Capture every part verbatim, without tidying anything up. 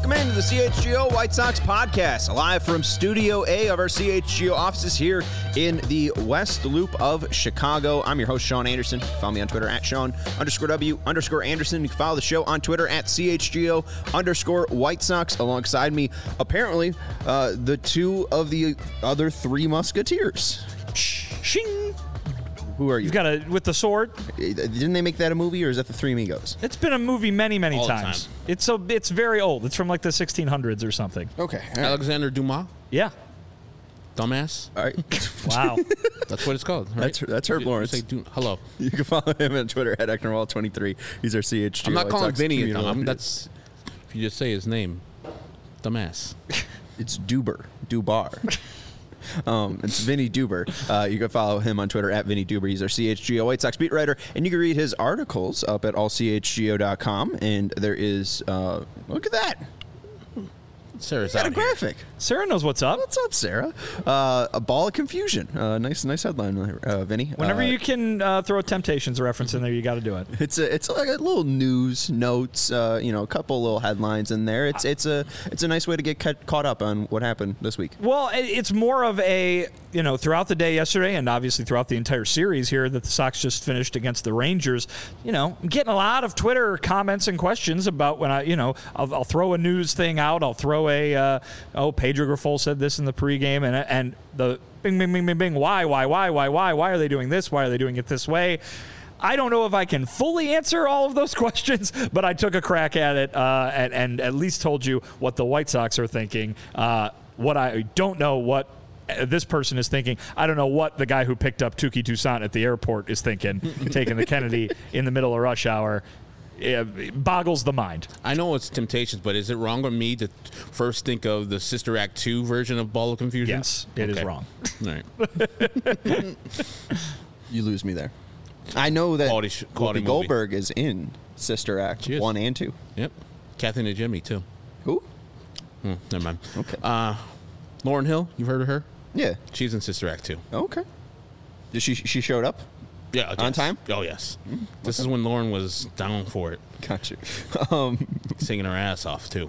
Welcome into the C H G O White Sox podcast, live from Studio A of our C H G O offices here in the West Loop of Chicago. I'm your host, Sean Anderson. Follow me on Twitter at Sean underscore W underscore Anderson. You can follow the show on Twitter at C H G O underscore White Sox. Alongside me, apparently, uh, the two of the other three Musketeers. Shing. Who are you? You've got a with the sword. Didn't they make that a movie, or is that the Three Amigos? It's been a movie many, many All the times. time. It's so it's very old. It's from like the sixteen hundreds or something. Okay. All right. Alexander Dumas, Yeah. dumbass. All right. Wow. That's what it's called. Right? That's that's Herb You Lawrence. say du- hello. You can follow him on Twitter at Ecknerwall twenty-three. He's our C H G O. I'm not White calling Sox Vinny a community dumb. I'm, leader. that's if you just say his name, dumbass. It's Duber. Dubar. Um, it's Vinny Duber. Uh, you can follow him on Twitter at Vinny Duber. He's our C H G O White Sox beat writer, and you can read his articles up at all c h g o dot com. And there is, uh, look at that. Sarah's Got a out here. graphic. Sarah knows what's up. What's up, Sarah? Uh, a ball of confusion. Uh, nice, nice headline, uh, Vinny. Whenever uh, you can uh, throw a Temptations reference in there, you got to do it. It's a, it's like a little news notes, uh, you know, a couple little headlines in there. It's it's a it's a nice way to get ca- caught up on what happened this week. Well, it- it's more of a, you know, throughout the day yesterday and obviously throughout the entire series here that the Sox just finished against the Rangers, you know, I'm getting a lot of Twitter comments and questions about when I, you know, I'll, I'll throw a news thing out. I'll throw a, uh, oh, Pedro Grifol said this in the pregame and, and the bing, bing, bing, bing, bing, why, why, why, why, why, why are they doing this? Why are they doing it this way? I don't know if I can fully answer all of those questions, but I took a crack at it uh, and, and at least told you what the White Sox are thinking. Uh, what I don't know what this person is thinking. I don't know what the guy who picked up Tuki Toussaint at the airport is thinking, taking the Kennedy in the middle of rush hour. It boggles the mind. I know it's Temptations, but is it wrong of me to first think of the Sister Act two version of Ball of Confusion? Yes, it is Okay. wrong. All right. You lose me there. I know that Quality sh- quality Whoopi movie. Goldberg is in Sister Act She is. one and two. Yep. Kathy and Jimmy too. Who? Hmm, never mind. Okay. Uh, Lauren Hill, you've heard of her? Yeah. She's in Sister Act two. Okay. Did she she showed up? Yeah. On yes. time? Oh yes. This is when Lauren was down for it, Got you. Um, singing her ass off too.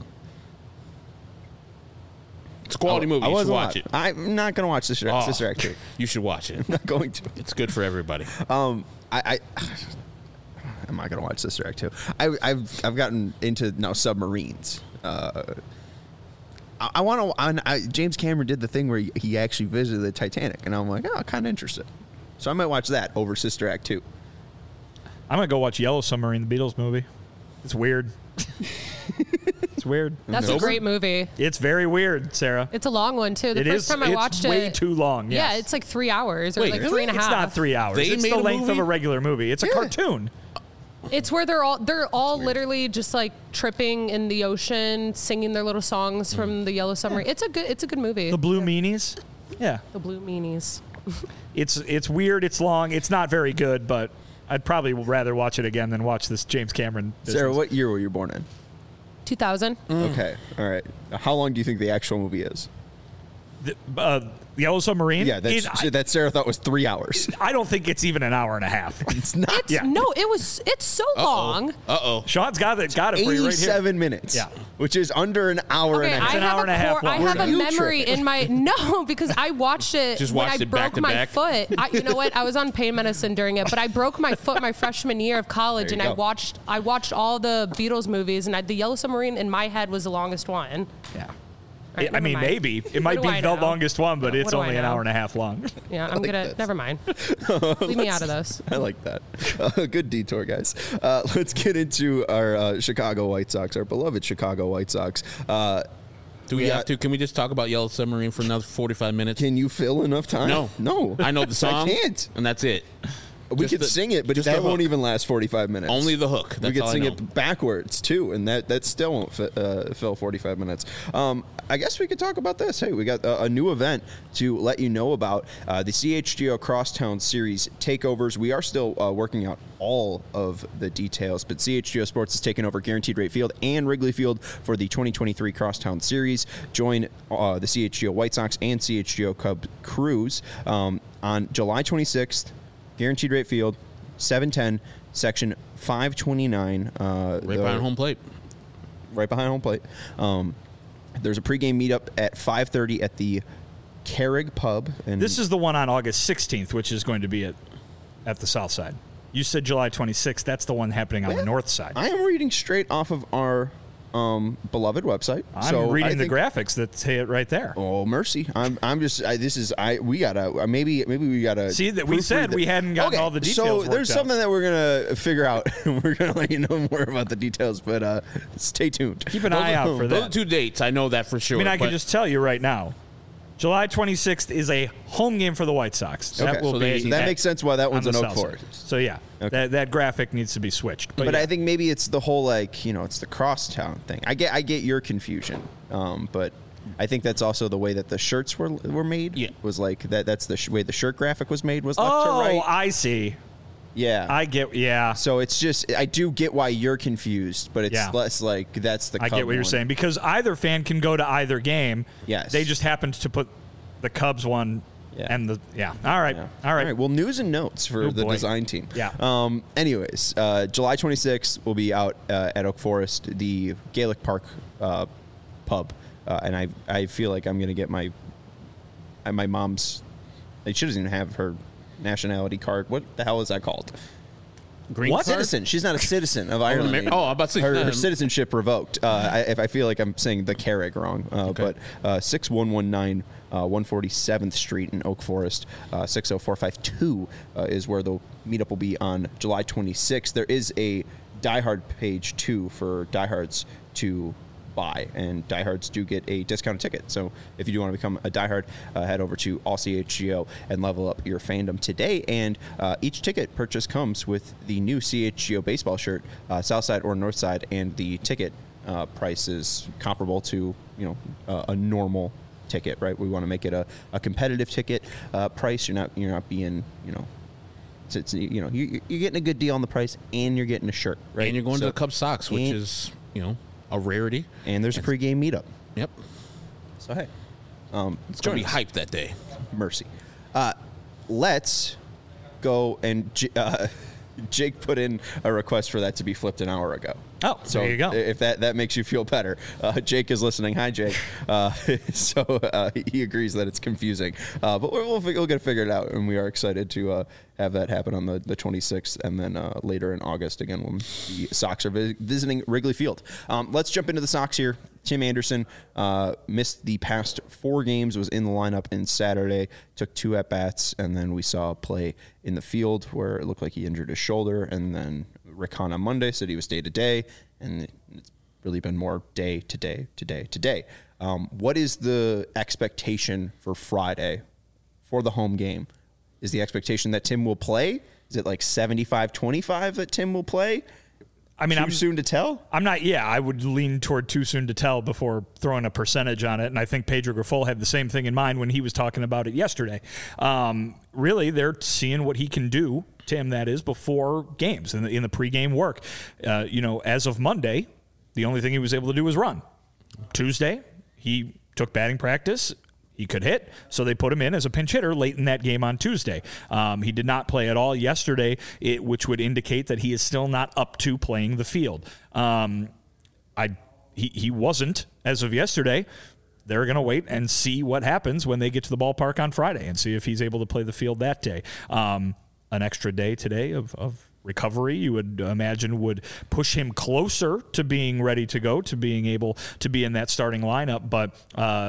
It's a quality I- movie. I You should wasn't watch live. it. I'm not going to watch Sister, Oh, Sister Act two. You should watch it. I'm not going to. It's good for everybody. Um, I, I I'm not going to watch Sister Act two. I, I've I've gotten into now submarines. Uh, I, I want to. James Cameron did the thing where he, he actually visited the Titanic, and I'm like, oh, kind of interested. So I might watch that over Sister Act two. I'm going to go watch Yellow Submarine, the Beatles movie. It's weird. It's weird. That's a great movie. It's very weird, Sarah. It's a long one too. The It first is. time I it's watched way it, too long. yeah, yes. it's like three hours or Wait, like really? three and a half. It's not three hours. They it's made the a length of movie? a regular movie. It's a Yeah. cartoon. It's where they're all they're all literally just like tripping in the ocean, singing their little songs from the Yellow Submarine. It's a good it's a good movie. The Blue Meanies. Yeah. The Blue Meanies. It's it's weird. It's long. It's not very good, but I'd probably rather watch it again than watch this James Cameron. Sarah, business. what year were you born in? two thousand. Okay, all right. How long do you think the actual movie is? The, uh, Yellow Submarine? Yeah, that's, It- I, that Sarah thought was three hours. I don't think it's even an hour and a half. It's not. It's Yeah. no, it was it's so long. Uh oh. Sean's got it. Got it for you right here. eighty-seven minutes. Yeah. Which is under an hour Okay, and a half. I an have hour a and a half core, I long. have a You memory tripping. in my no because I watched it Just when watched I it back broke to my back? foot. I, you know what? I was on pain medicine during it, but I broke my foot my freshman year of college, There and you I go. watched I watched all the Beatles movies, and I, the Yellow Submarine in my head was the longest one. Yeah. All right, I never mean, mind. maybe. It What might do be I the know? longest one, but What it's do I only an know? hour and a half long. Yeah, I'm gonna this. never mind. Leave me out of this. I like that. Uh, good detour, guys. Uh, let's get into our uh, Chicago White Sox, our beloved Chicago White Sox. Uh, Do we Yeah. have to? Can we just talk about Yellow Submarine for another forty-five minutes? can you fill enough time? No. No. I know the song. I can't. And that's it. We Just could the- sing it, but just that the won't hook. even last forty-five minutes. Only the hook. That's we could all I sing know. it backwards too, and that, that still won't fi- uh, fill forty-five minutes. Um, I guess we could talk about this. Hey, we got a, a new event to let you know about, uh, the C H G O Crosstown Series takeovers. We are still uh, working out all of the details, but C H G O Sports is taking over Guaranteed Rate Field and Wrigley Field for the twenty twenty-three Crosstown Series. Join uh, the C H G O White Sox and C H G O Cubs crews um, on July twenty-sixth, Guaranteed Rate Field, seven ten, section five twenty-nine. Uh, Right the- behind home plate. right behind home plate. Um, there's a pregame meetup at five thirty at the Carrig Pub. And this is the one on August sixteenth, which is going to be at at the south side. You said July twenty-sixth. That's the one happening on Yeah. the north side. I am reading straight off of our um, beloved website. I'm so reading I the think, graphics that say it right there. Oh mercy! I'm I'm just I, this is I we gotta uh, maybe maybe we gotta See, that we proofread said the- we hadn't gotten okay, all the details So worked there's out. something that we're gonna figure out. We're gonna let you know more about the details, but uh, stay tuned. Keep an Those eye are- out for Those are that. two dates. I know that for sure. I mean, I can but- just tell you right now, July twenty-sixth is a home game for the White Sox. Okay. That will So be they- that at- makes sense why that on one's the an Oak south side. Forest. So yeah, Okay. that that graphic needs to be switched. But, But yeah. I think maybe it's the whole like you know it's the crosstown thing. I get I get your confusion, um, but I think that's also the way that the shirts were were made. Yeah. was like that. That's the sh- way the shirt graphic was made was left oh, to right. I see. Yeah, I get. Yeah, So it's just I do get why you're confused, but it's Yeah. less like that's the. I Cub get what you're one. saying because either fan can go to either game. Yes. They just happened to put the Cubs one Yeah. and the yeah. All right. Yeah. All right. Well, news and notes for Oh, the boy. design team. Yeah. Um. Anyways, uh, July twenty-sixth will be out uh, at Oak Forest, the Gaelic Park uh, pub, uh, and I I feel like I'm gonna get my uh, my mom's. She doesn't even have her nationality card. What the hell is that called? Green What? card? Citizen. She's not a citizen of Ireland. Amer- oh, I'm about to say, her, her um, citizenship revoked. Uh, I, if I feel like I'm saying the Carrig wrong, uh, Okay. but uh, six one one nine uh, one forty-seventh Street in Oak Forest, uh, six oh four five two uh, is where the meetup will be on July twenty-sixth. There is a Die Hard page too for diehards to buy, and diehards do get a discounted ticket. So if you do want to become a diehard, uh, head over to All C H G O and level up your fandom today. And uh, each ticket purchase comes with the new C H G O baseball shirt, uh, south side or north side, and the ticket uh, price is comparable to you know uh, a normal ticket. Right? We want to make it a, a competitive ticket uh, price. You're not you're not being you know. It's, it's, you know you, you're getting a good deal on the price, and you're getting a shirt, right? And you're going So- to the Cub Sox, which and- is, you know, a rarity. and there's a pregame meetup. Yep. So hey, um, It's going to join be us. hyped that day. Mercy. Uh, let's go and J- uh, Jake put in a request for that to be flipped an hour ago. Oh, so there you go. If that, that makes you feel better, uh, Jake is listening. Hi, Jake. Uh, so uh, he agrees that it's confusing, uh, but we'll, we'll, we'll get it figured out, and we are excited to uh, have that happen on the, the twenty-sixth, and then uh, later in August again when the Sox are vi- visiting Wrigley Field. Um, let's jump into the Sox here. Tim Anderson uh, missed the past four games, was in the lineup in Saturday, took two at-bats, and then we saw a play in the field where it looked like he injured his shoulder, and then Rick Hahn on Monday said he was day-to-day, and it's really been more day-to-day, to-day, to-day. Um, what is the expectation for Friday for the home game? Is the expectation that Tim will play? Is it like seventy-five twenty-five that Tim will play? I mean, Too I'm soon to tell? I'm not. Yeah, I would lean toward too soon to tell before throwing a percentage on it. And I think Pedro Grifol had the same thing in mind when he was talking about it yesterday. Um, really, they're seeing what he can do, Tim. That is before games in the in the pregame work. Uh, you know, as of Monday, the only thing he was able to do was run. Tuesday, he took batting practice. He could hit, so they put him in as a pinch hitter late in that game on Tuesday. Um, he did not play at all yesterday, it, which would indicate that he is still not up to playing the field. Um, I he, he wasn't as of yesterday. They're going to wait and see what happens when they get to the ballpark on Friday and see if he's able to play the field that day. Um, an extra day today of, of recovery, you would imagine, would push him closer to being ready to go, to being able to be in that starting lineup. But uh,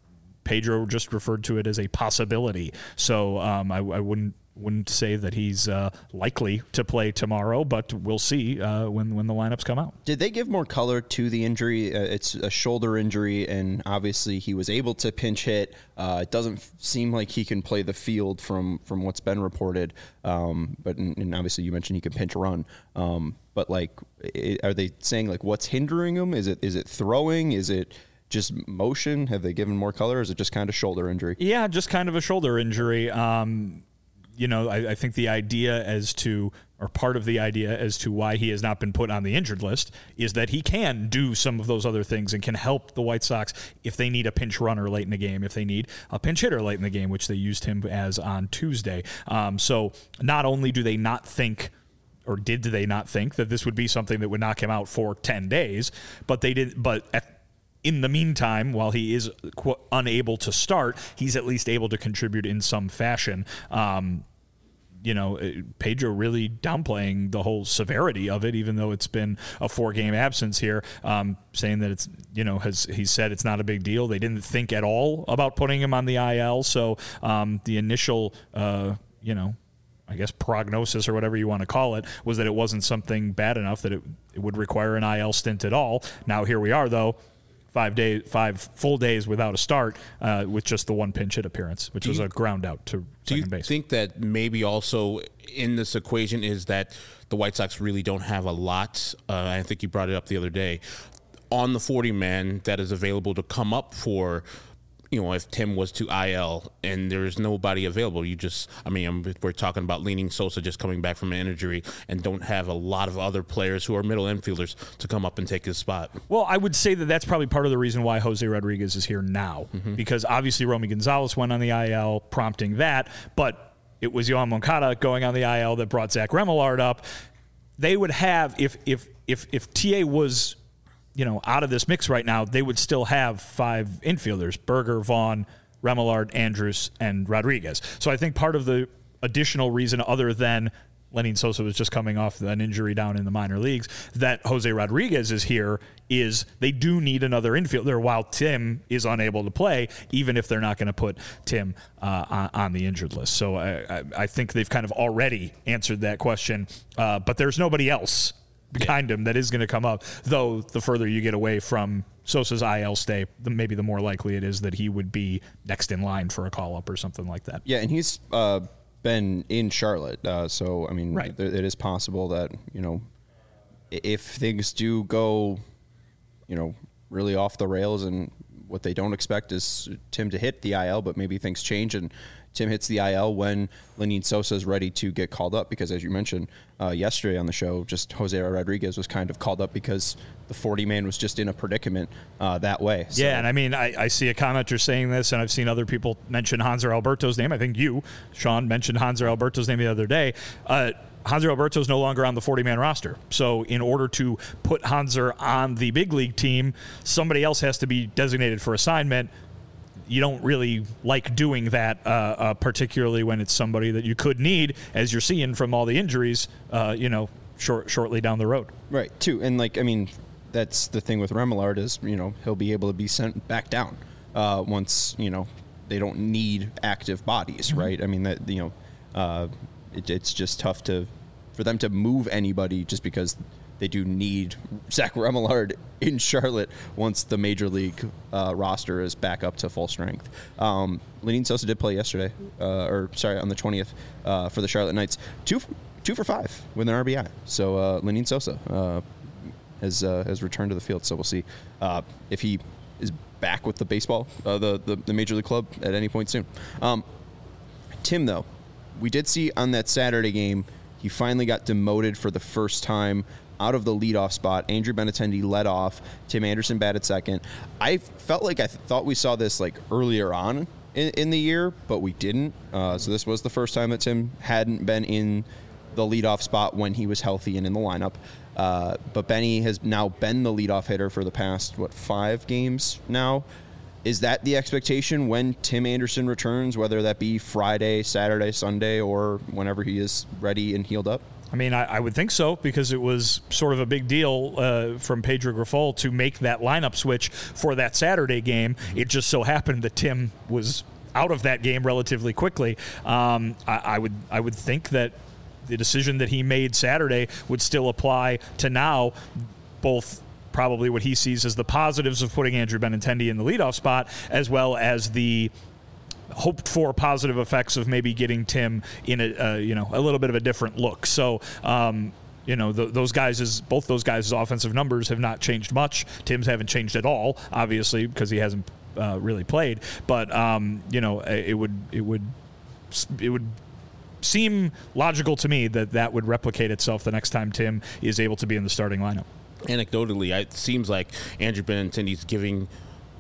Pedro just referred to it as a possibility. So um, I, I wouldn't wouldn't say that he's uh, likely to play tomorrow, but we'll see uh, when when the lineups come out. Did they give more color to the injury? Uh, it's a shoulder injury, and obviously he was able to pinch hit. Uh, it doesn't f- seem like he can play the field from, from what's been reported. Um, but and, and obviously you mentioned he can pinch run. Um, but like, it, are they saying like what's hindering him? Is it is it throwing? Is it just motion? Have they given more color? Or is it just kind of shoulder injury? Yeah, just kind of a shoulder injury. Um, you know, I, I think the idea as to, or part of the idea as to why he has not been put on the injured list is that he can do some of those other things and can help the White Sox if they need a pinch runner late in the game, if they need a pinch hitter late in the game, which they used him as on Tuesday. Um, so not only do they not think or did they not think that this would be something that would knock him out for ten days? But they did. But at, in the meantime, while he is qu- unable to start, he's at least able to contribute in some fashion. Um, you know, Pedro really downplaying the whole severity of it, even though it's been a four-game absence here, um, saying that it's, you know, has he said it's not a big deal. They didn't think at all about putting him on the I L. So um, the initial, uh, you know, I guess prognosis or whatever you want to call it was that it wasn't something bad enough that it, it would require an I L stint at all. Now here we are, though. Five days, five full days without a start, uh, with just the one pinch hit appearance, which do was you, a ground out to do you second base. Think that maybe also in this equation is that the White Sox really don't have a lot? Uh, I think you brought it up the other day on the forty man that is available to come up for. You know, if Tim was to I L and there's nobody available, you just, I mean, I'm, we're talking about Lenyn Sosa just coming back from an injury and don't have a lot of other players who are middle infielders to come up and take his spot. Well, I would say that that's probably part of the reason why Jose Rodriguez is here now, mm-hmm. because obviously Romy Gonzalez went on the I L, prompting that, but it was Yohan Moncada going on the I L that brought Zach Remillard up. They would have, if if if if T A was, you know, out of this mix right now, they would still have five infielders: Berger, Vaughn, Remillard, Andrus, and Rodriguez. So I think part of the additional reason, other than Lenyn Sosa was just coming off an injury down in the minor leagues, that Jose Rodriguez is here, is they do need another infielder while Tim is unable to play, even if they're not going to put Tim uh, on, on the injured list. So I, I, I think they've kind of already answered that question, uh, but there's nobody else behind him that is going to come up, though the further you get away from Sosa's I L stay, the, maybe the more likely it is that he would be next in line for a call-up or something like that. Yeah, and he's uh, been in Charlotte, uh, so, I mean, right. th- it is possible that, you know, if things do go, you know, really off the rails, and what they don't expect is Tim to hit the I L, but maybe things change and Tim hits the I L when Lenyn Sosa is ready to get called up, because as you mentioned uh, yesterday on the show, just Jose Rodriguez was kind of called up because the forty man was just in a predicament uh, that way. So. Yeah, and I mean, I, I see a commenter saying this, and I've seen other people mention Hanser Alberto's name. I think you, Sean, mentioned Hanser Alberto's name the other day. Uh, Hanser Alberto is no longer on the forty man roster. So in order to put Hanser on the big league team, somebody else has to be designated for assignment. You don't really like doing that, uh, uh, particularly when it's somebody that you could need, as you're seeing from all the injuries, uh, you know, short, shortly down the road. Right, too. And, like, I mean, that's the thing with Remillard is, you know, he'll be able to be sent back down uh, once, you know, they don't need active bodies, mm-hmm. right? I mean, that, you know, uh, it, it's just tough to for them to move anybody just because they do need Zach Remillard in Charlotte once the major league uh, roster is back up to full strength. Um, Lenyn Sosa did play yesterday, uh, or sorry, on the twentieth uh, for the Charlotte Knights. Two, two for five with an R B I. So uh, Lenyn Sosa uh, has uh, has returned to the field. So we'll see uh, if he is back with the baseball, uh, the, the the major league club at any point soon. Um, Tim, though, we did see on that Saturday game, he finally got demoted for the first time out of the leadoff spot. Andrew Benintendi led off. Tim Anderson batted second. I felt like I th- thought we saw this like earlier on in, in the year, but we didn't. Uh, so this was the first time that Tim hadn't been in the leadoff spot when he was healthy and in the lineup. Uh, but Benny has now been the leadoff hitter for the past, what, five games now? Is that the expectation when Tim Anderson returns, whether that be Friday, Saturday, Sunday, or whenever he is ready and healed up? I mean, I, I would think so, because it was sort of a big deal uh, from Pedro Grifol to make that lineup switch for that Saturday game. It just so happened that Tim was out of that game relatively quickly. Um, I, I would I would think that the decision that he made Saturday would still apply to now, both probably what he sees as the positives of putting Andrew Benintendi in the leadoff spot, as well as the hoped for positive effects of maybe getting Tim in a uh, you know a little bit of a different look. So um, you know th- those guys' both those guys' offensive numbers have not changed much. Tim's haven't changed at all, obviously, because he hasn't uh, really played. But um, you know it would it would it would seem logical to me that that would replicate itself the next time Tim is able to be in the starting lineup. Anecdotally, it seems like Andrew Benintendi's giving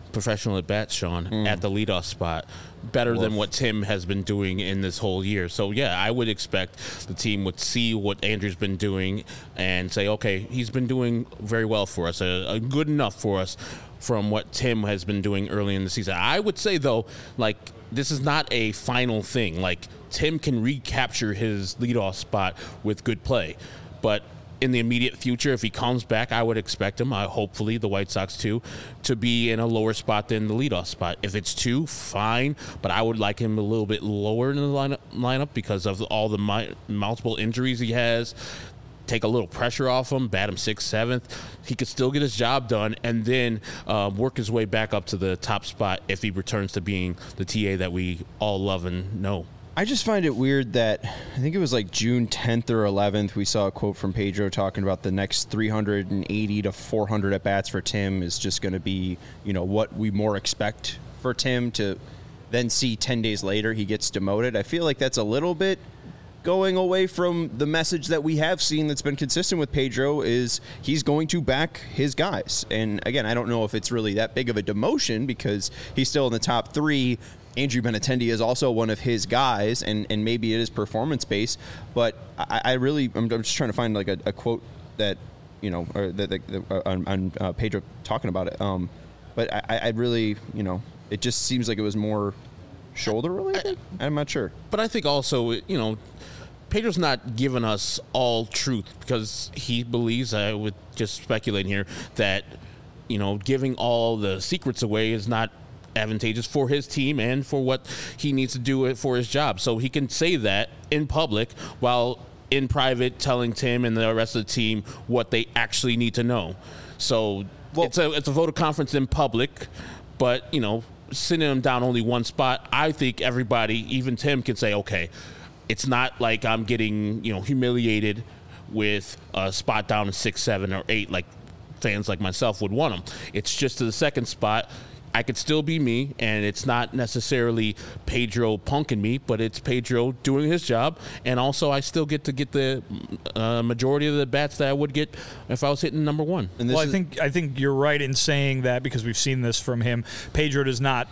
professional at bat, Sean, mm. at the leadoff spot, better Woof. than what Tim has been doing in this whole year. So, yeah, I would expect the team would see what Andrew's been doing and say, okay, he's been doing very well for us, uh, uh, good enough for us from what Tim has been doing early in the season. I would say, though, like, this is not a final thing. Like, Tim can recapture his leadoff spot with good play. But in the immediate future, if he comes back, I would expect him, uh, hopefully the White Sox too, to be in a lower spot than the leadoff spot. If it's two, fine, but I would like him a little bit lower in the lineup, lineup because of all the mi- multiple injuries he has. Take a little pressure off him, bat him sixth, seventh. He could still get his job done and then uh, work his way back up to the top spot if he returns to being the T A that we all love and know. I just find it weird that I think it was like June tenth or eleventh, we saw a quote from Pedro talking about the next three hundred eighty to four hundred at-bats for Tim is just going to be, you know, what we more expect for Tim to then see ten days later he gets demoted. I feel like that's a little bit going away from the message that we have seen that's been consistent with Pedro is he's going to back his guys. And again, I don't know if it's really that big of a demotion because he's still in the top three. Andrew Benintendi is also one of his guys, and, and maybe it is performance-based, but I, I really, I'm, I'm just trying to find like a, a quote that, you know, or that, that, that on, on uh, Pedro talking about it. Um, but I, I really, you know, it just seems like it was more shoulder-related? I'm not sure. But I think also, you know, Pedro's not giving us all truth because he believes, I would just speculate here, that, you know, giving all the secrets away is not advantageous for his team and for what he needs to do it for his job. So he can say that in public while in private telling Tim and the rest of the team what they actually need to know. So well, it's a it's a vote of confidence in public, but, you know, sitting him down only one spot, I think everybody, even Tim, can say, okay, it's not like I'm getting, you know, humiliated with a spot down in six, seven, or eight like fans like myself would want him. It's just to the second spot. I could still be me, and it's not necessarily Pedro punking me, but it's Pedro doing his job, and also I still get to get the uh, majority of the bats that I would get if I was hitting number one. And well, I think I think you're right in saying that because we've seen this from him. Pedro does not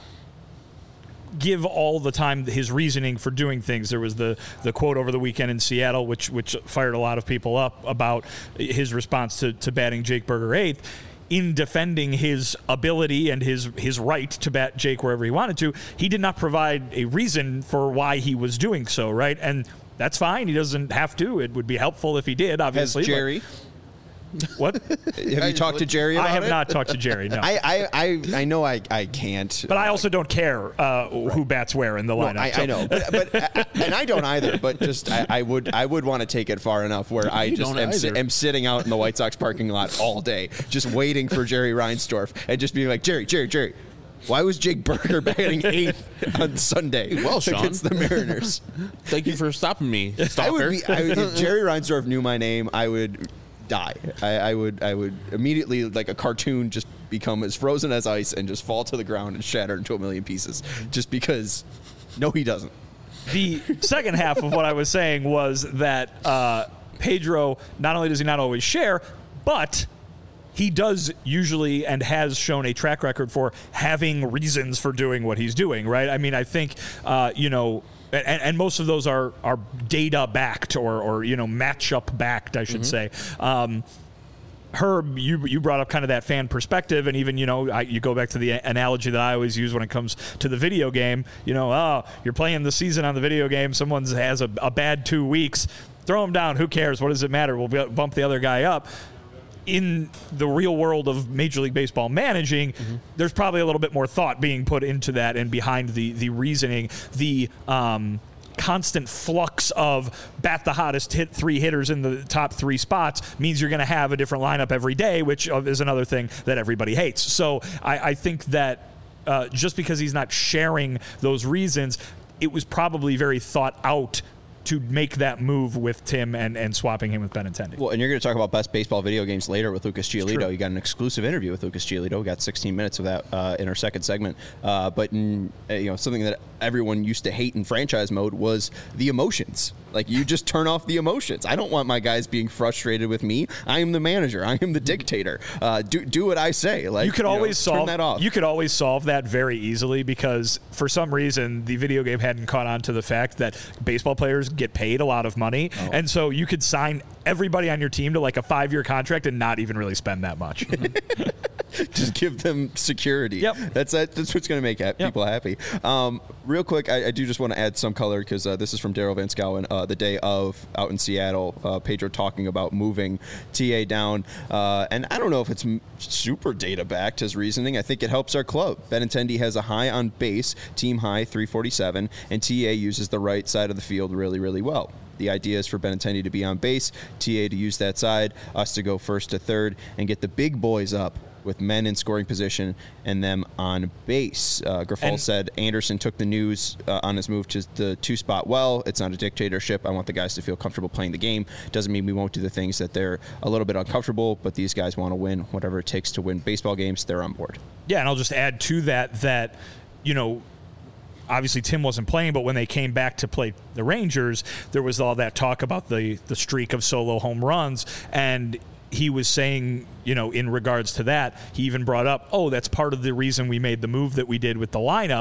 give all the time his reasoning for doing things. There was the, the quote over the weekend in Seattle, which which fired a lot of people up about his response to, to batting Jake Burger eighth. In defending his ability and his his right to bat Jake wherever he wanted to, he did not provide a reason for why he was doing so, right? And that's fine. He doesn't have to. It would be helpful if he did, obviously. Has Jerry? What? Have you talked to Jerry about it? I have it? not talked to Jerry, no. I, I, I, I know I, I can't. But I also don't care uh, right. who bats where in the lineup. No, I, so. I know, but, but and I don't either. But just I, I would I would want to take it far enough where I just am, si- am sitting out in the White Sox parking lot all day, just waiting for Jerry Reinsdorf and just being like, Jerry, Jerry, Jerry. Why was Jake Burger batting eighth on Sunday well, Sean. against the Mariners? Thank you for stopping me, stalker. I would be, I would, if Jerry Reinsdorf knew my name, I would die. I, I would I would immediately, like a cartoon, just become as frozen as ice and just fall to the ground and shatter into a million pieces. Just because, no, he doesn't. The second half of what I was saying was that uh, Pedro, not only does he not always share, but he does usually and has shown a track record for having reasons for doing what he's doing, right? I mean, I think, uh, you know, and, and most of those are, are data backed or, or, you know, matchup backed, I should mm-hmm. say. Um, Herb, you you brought up kind of that fan perspective, and even, you know, I, you go back to the analogy that I always use when it comes to the video game. You know, oh, you're playing the season on the video game. Someone has a, a bad two weeks. Throw them down. Who cares? What does it matter? We'll bump the other guy up. In the real world of Major League Baseball managing, mm-hmm. there's probably a little bit more thought being put into that and behind the the reasoning, the um, constant flux of bat the hottest hit three hitters in the top three spots means you're going to have a different lineup every day, which is another thing that everybody hates. So I, I think that uh, just because he's not sharing those reasons, it was probably very thought out to make that move with Tim and, and swapping him with Benintendi. Well, and you're going to talk about best baseball video games later with Lucas true. Giolito. You got an exclusive interview with Lucas Giolito. We got sixteen minutes of that uh, in our second segment. Uh, but in, uh, you know, something that everyone used to hate in franchise mode was the emotions. Like, you just turn off the emotions. I don't want my guys being frustrated with me. I am the manager. I am the dictator. Uh, do do what I say. Like, you could you always know, solve turn that off. You could always solve that very easily, because for some reason the video game hadn't caught on to the fact that baseball players get paid a lot of money, oh. and so you could sign everybody on your team to like a five-year contract and not even really spend that much. Just give them security. Yep. That's that, that's what's going to make ha- yep. people happy. Um, real quick, I, I do just want to add some color, because uh, this is from Daryl Van Schouwen, uh, the day of out in Seattle. Uh, Pedro talking about moving T A down. Uh, and I don't know if it's m- super data-backed, his reasoning. I think it helps our club. Benintendi has a high on base, team high, three forty-seven, and T A uses the right side of the field really, really well. The idea is for Benintendi to be on base, T A to use that side, us to go first to third, and get the big boys up with men in scoring position and them on base. Uh, Grifol And- said Anderson took the news uh, on his move to the two-spot well. It's not a dictatorship. I want the guys to feel comfortable playing the game. Doesn't mean we won't do the things that they're a little bit uncomfortable, but these guys want to win. Whatever it takes to win baseball games, they're on board. Yeah, and I'll just add to that that, you know, obviously Tim wasn't playing, but when they came back to play the Rangers, there was all that talk about the the streak of solo home runs, and he was saying, you know, in regards to that, he even brought up, oh, that's part of the reason we made the move that we did with the lineup,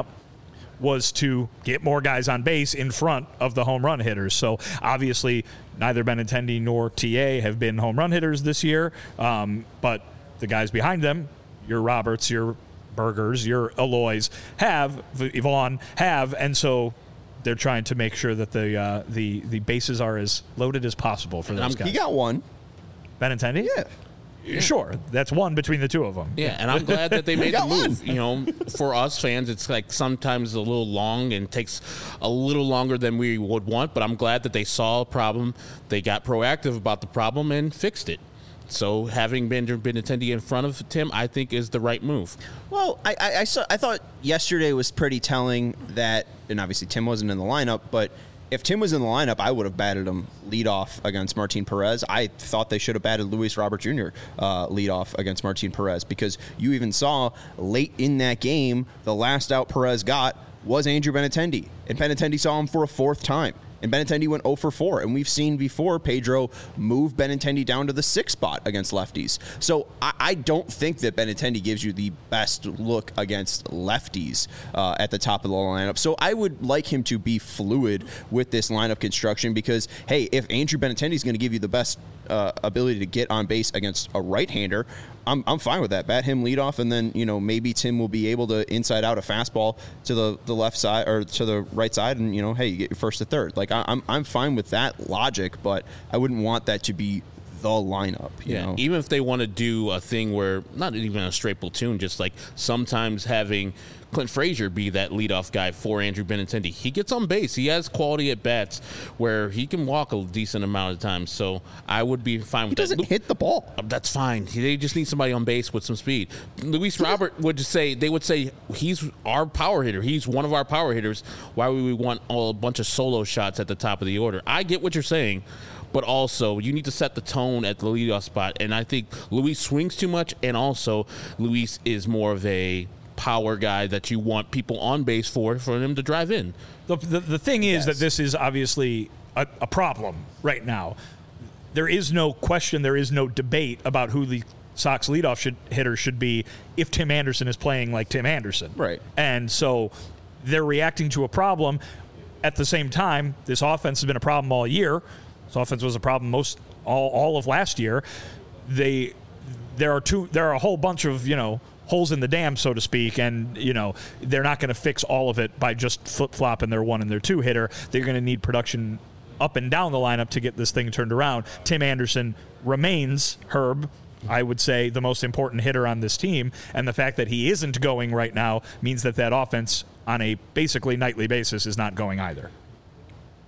was to get more guys on base in front of the home run hitters. So obviously neither Benintendi nor T A have been home run hitters this year, um, but the guys behind them, your Roberts, your Burgers, your Aloys, have, Yvonne have, and so they're trying to make sure that the uh, the the bases are as loaded as possible for those Um, guys. he got one. Benintendi? Yeah. Yeah. Sure, that's one between the two of them. Yeah, and I'm glad that they made the got one. move. You know, for us fans, it's like sometimes a little long and takes a little longer than we would want, but I'm glad that they saw a problem, they got proactive about the problem, and fixed it. So having Benjamin Benintendi in front of Tim, I think, is the right move. Well, I, I, I, saw, I thought yesterday was pretty telling that, and obviously Tim wasn't in the lineup, but if Tim was in the lineup, I would have batted him leadoff against Martin Perez. I thought they should have batted Luis Robert Junior Uh, leadoff against Martin Perez, because you even saw late in that game, the last out Perez got was Andrew Benintendi, and Benintendi saw him for a fourth time. And Benintendi went oh for four. And we've seen before Pedro move Benintendi down to the sixth spot against lefties. So I, I don't think that Benintendi gives you the best look against lefties uh, at the top of the lineup. So I would like him to be fluid with this lineup construction, because, hey, if Andrew Benintendi is going to give you the best uh, ability to get on base against a right-hander, I'm, I'm fine with that. Bat him leadoff, and then, you know, maybe Tim will be able to inside out a fastball to the, the left side or to the right side, and, you know, hey, you get your first to third. Like, I, I'm I'm fine with that logic, but I wouldn't want that to be the lineup. You Yeah, know? even if they want to do a thing where not even a straight platoon, just like sometimes having Clint Frazier be that leadoff guy for Andrew Benintendi. He gets on base. He has quality at bats where he can walk a decent amount of times. So I would be fine with He that. doesn't hit the ball. That's fine. They just need somebody on base with some speed. Luis Robert would just say, they would say, he's our power hitter. He's one of our power hitters. Why would we want all, a bunch of solo shots at the top of the order? I get what you're saying, but also you need to set the tone at the leadoff spot. And I think Luis swings too much, and also Luis is more of a power guy that you want people on base for, for them to drive in. The, the, the thing is Yes. that this is obviously a, a problem right now. There is no question, there is no debate about who the Sox leadoff should, hitter should be if Tim Anderson is playing like Tim Anderson. Right. And so they're reacting to a problem. At the same time, this offense has been a problem all year. This offense was a problem most all, all of last year. They there are two there are a whole bunch of, you know, holes in the dam, so to speak, and, you know, they're not going to fix all of it by just flip-flopping their one and their two hitter. They're going to need production up and down the lineup to get this thing turned around. Tim Anderson remains, Herb, I would say, the most important hitter on this team, and the fact that he isn't going right now means that that offense on a basically nightly basis is not going either.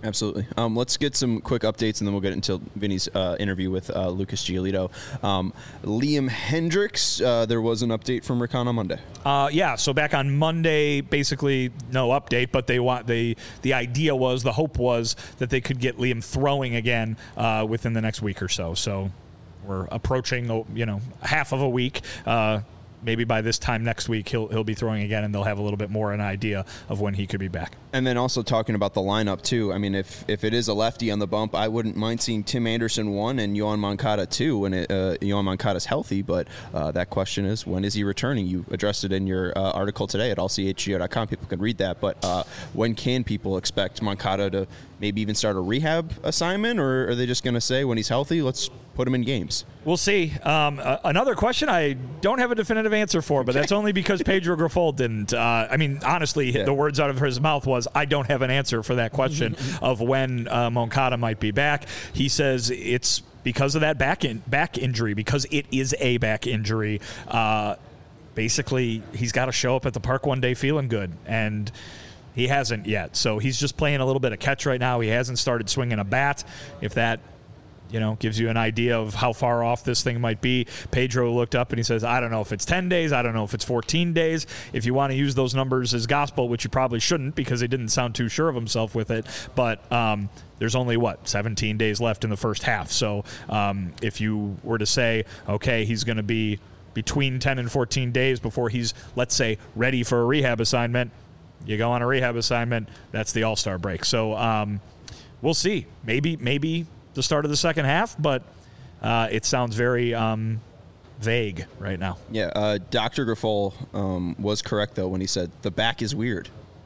Absolutely. Um, let's get some quick updates, and then we'll get into Vinny's uh, interview with uh, Lucas Giolito. Um, Liam Hendriks, uh, there was an update from Rickon on Monday. Uh, yeah, so back on Monday, basically no update, but they want they the idea was, the hope was that they could get Liam throwing again uh, within the next week or so. So we're approaching, you know, half of a week. Uh, maybe by this time next week he'll he'll be throwing again, and they'll have a little bit more an idea of when he could be back. And then also talking about the lineup too. I mean, if if it is a lefty on the bump, I wouldn't mind seeing Tim Anderson one and Yoan Moncada two when it, uh, Yoan Moncada's healthy. But uh, that question is, when is he returning? You addressed it in your uh, article today at all c h g o dot com. People can read that. But uh, when can people expect Moncada to maybe even start a rehab assignment, or are they just going to say when he's healthy, let's put him in games? We'll see. Um, uh, another question I don't have a definitive answer for, but that's only because Pedro Grifol didn't. Uh, I mean, honestly, yeah. the words out of his mouth was, I don't have an answer for that question of when uh, Moncada might be back. He says it's because of that back in, back injury, because it is a back injury. Uh, basically, he's got to show up at the park one day feeling good, and he hasn't yet. So he's just playing a little bit of catch right now. He hasn't started swinging a bat. If that, you know, gives you an idea of how far off this thing might be. Pedro looked up and he says, I don't know if it's ten days. I don't know if it's fourteen days. If you want to use those numbers as gospel, which you probably shouldn't because he didn't sound too sure of himself with it. But um, there's only, what, seventeen days left in the first half. So um, if you were to say, okay, he's going to be between ten and fourteen days before he's, let's say, ready for a rehab assignment, you go on a rehab assignment, that's the All-Star break. So um, we'll see. Maybe, maybe the start of the second half, but uh, it sounds very um, vague right now. Yeah, uh, Doctor Grifol um, was correct, though, when he said the back is weird.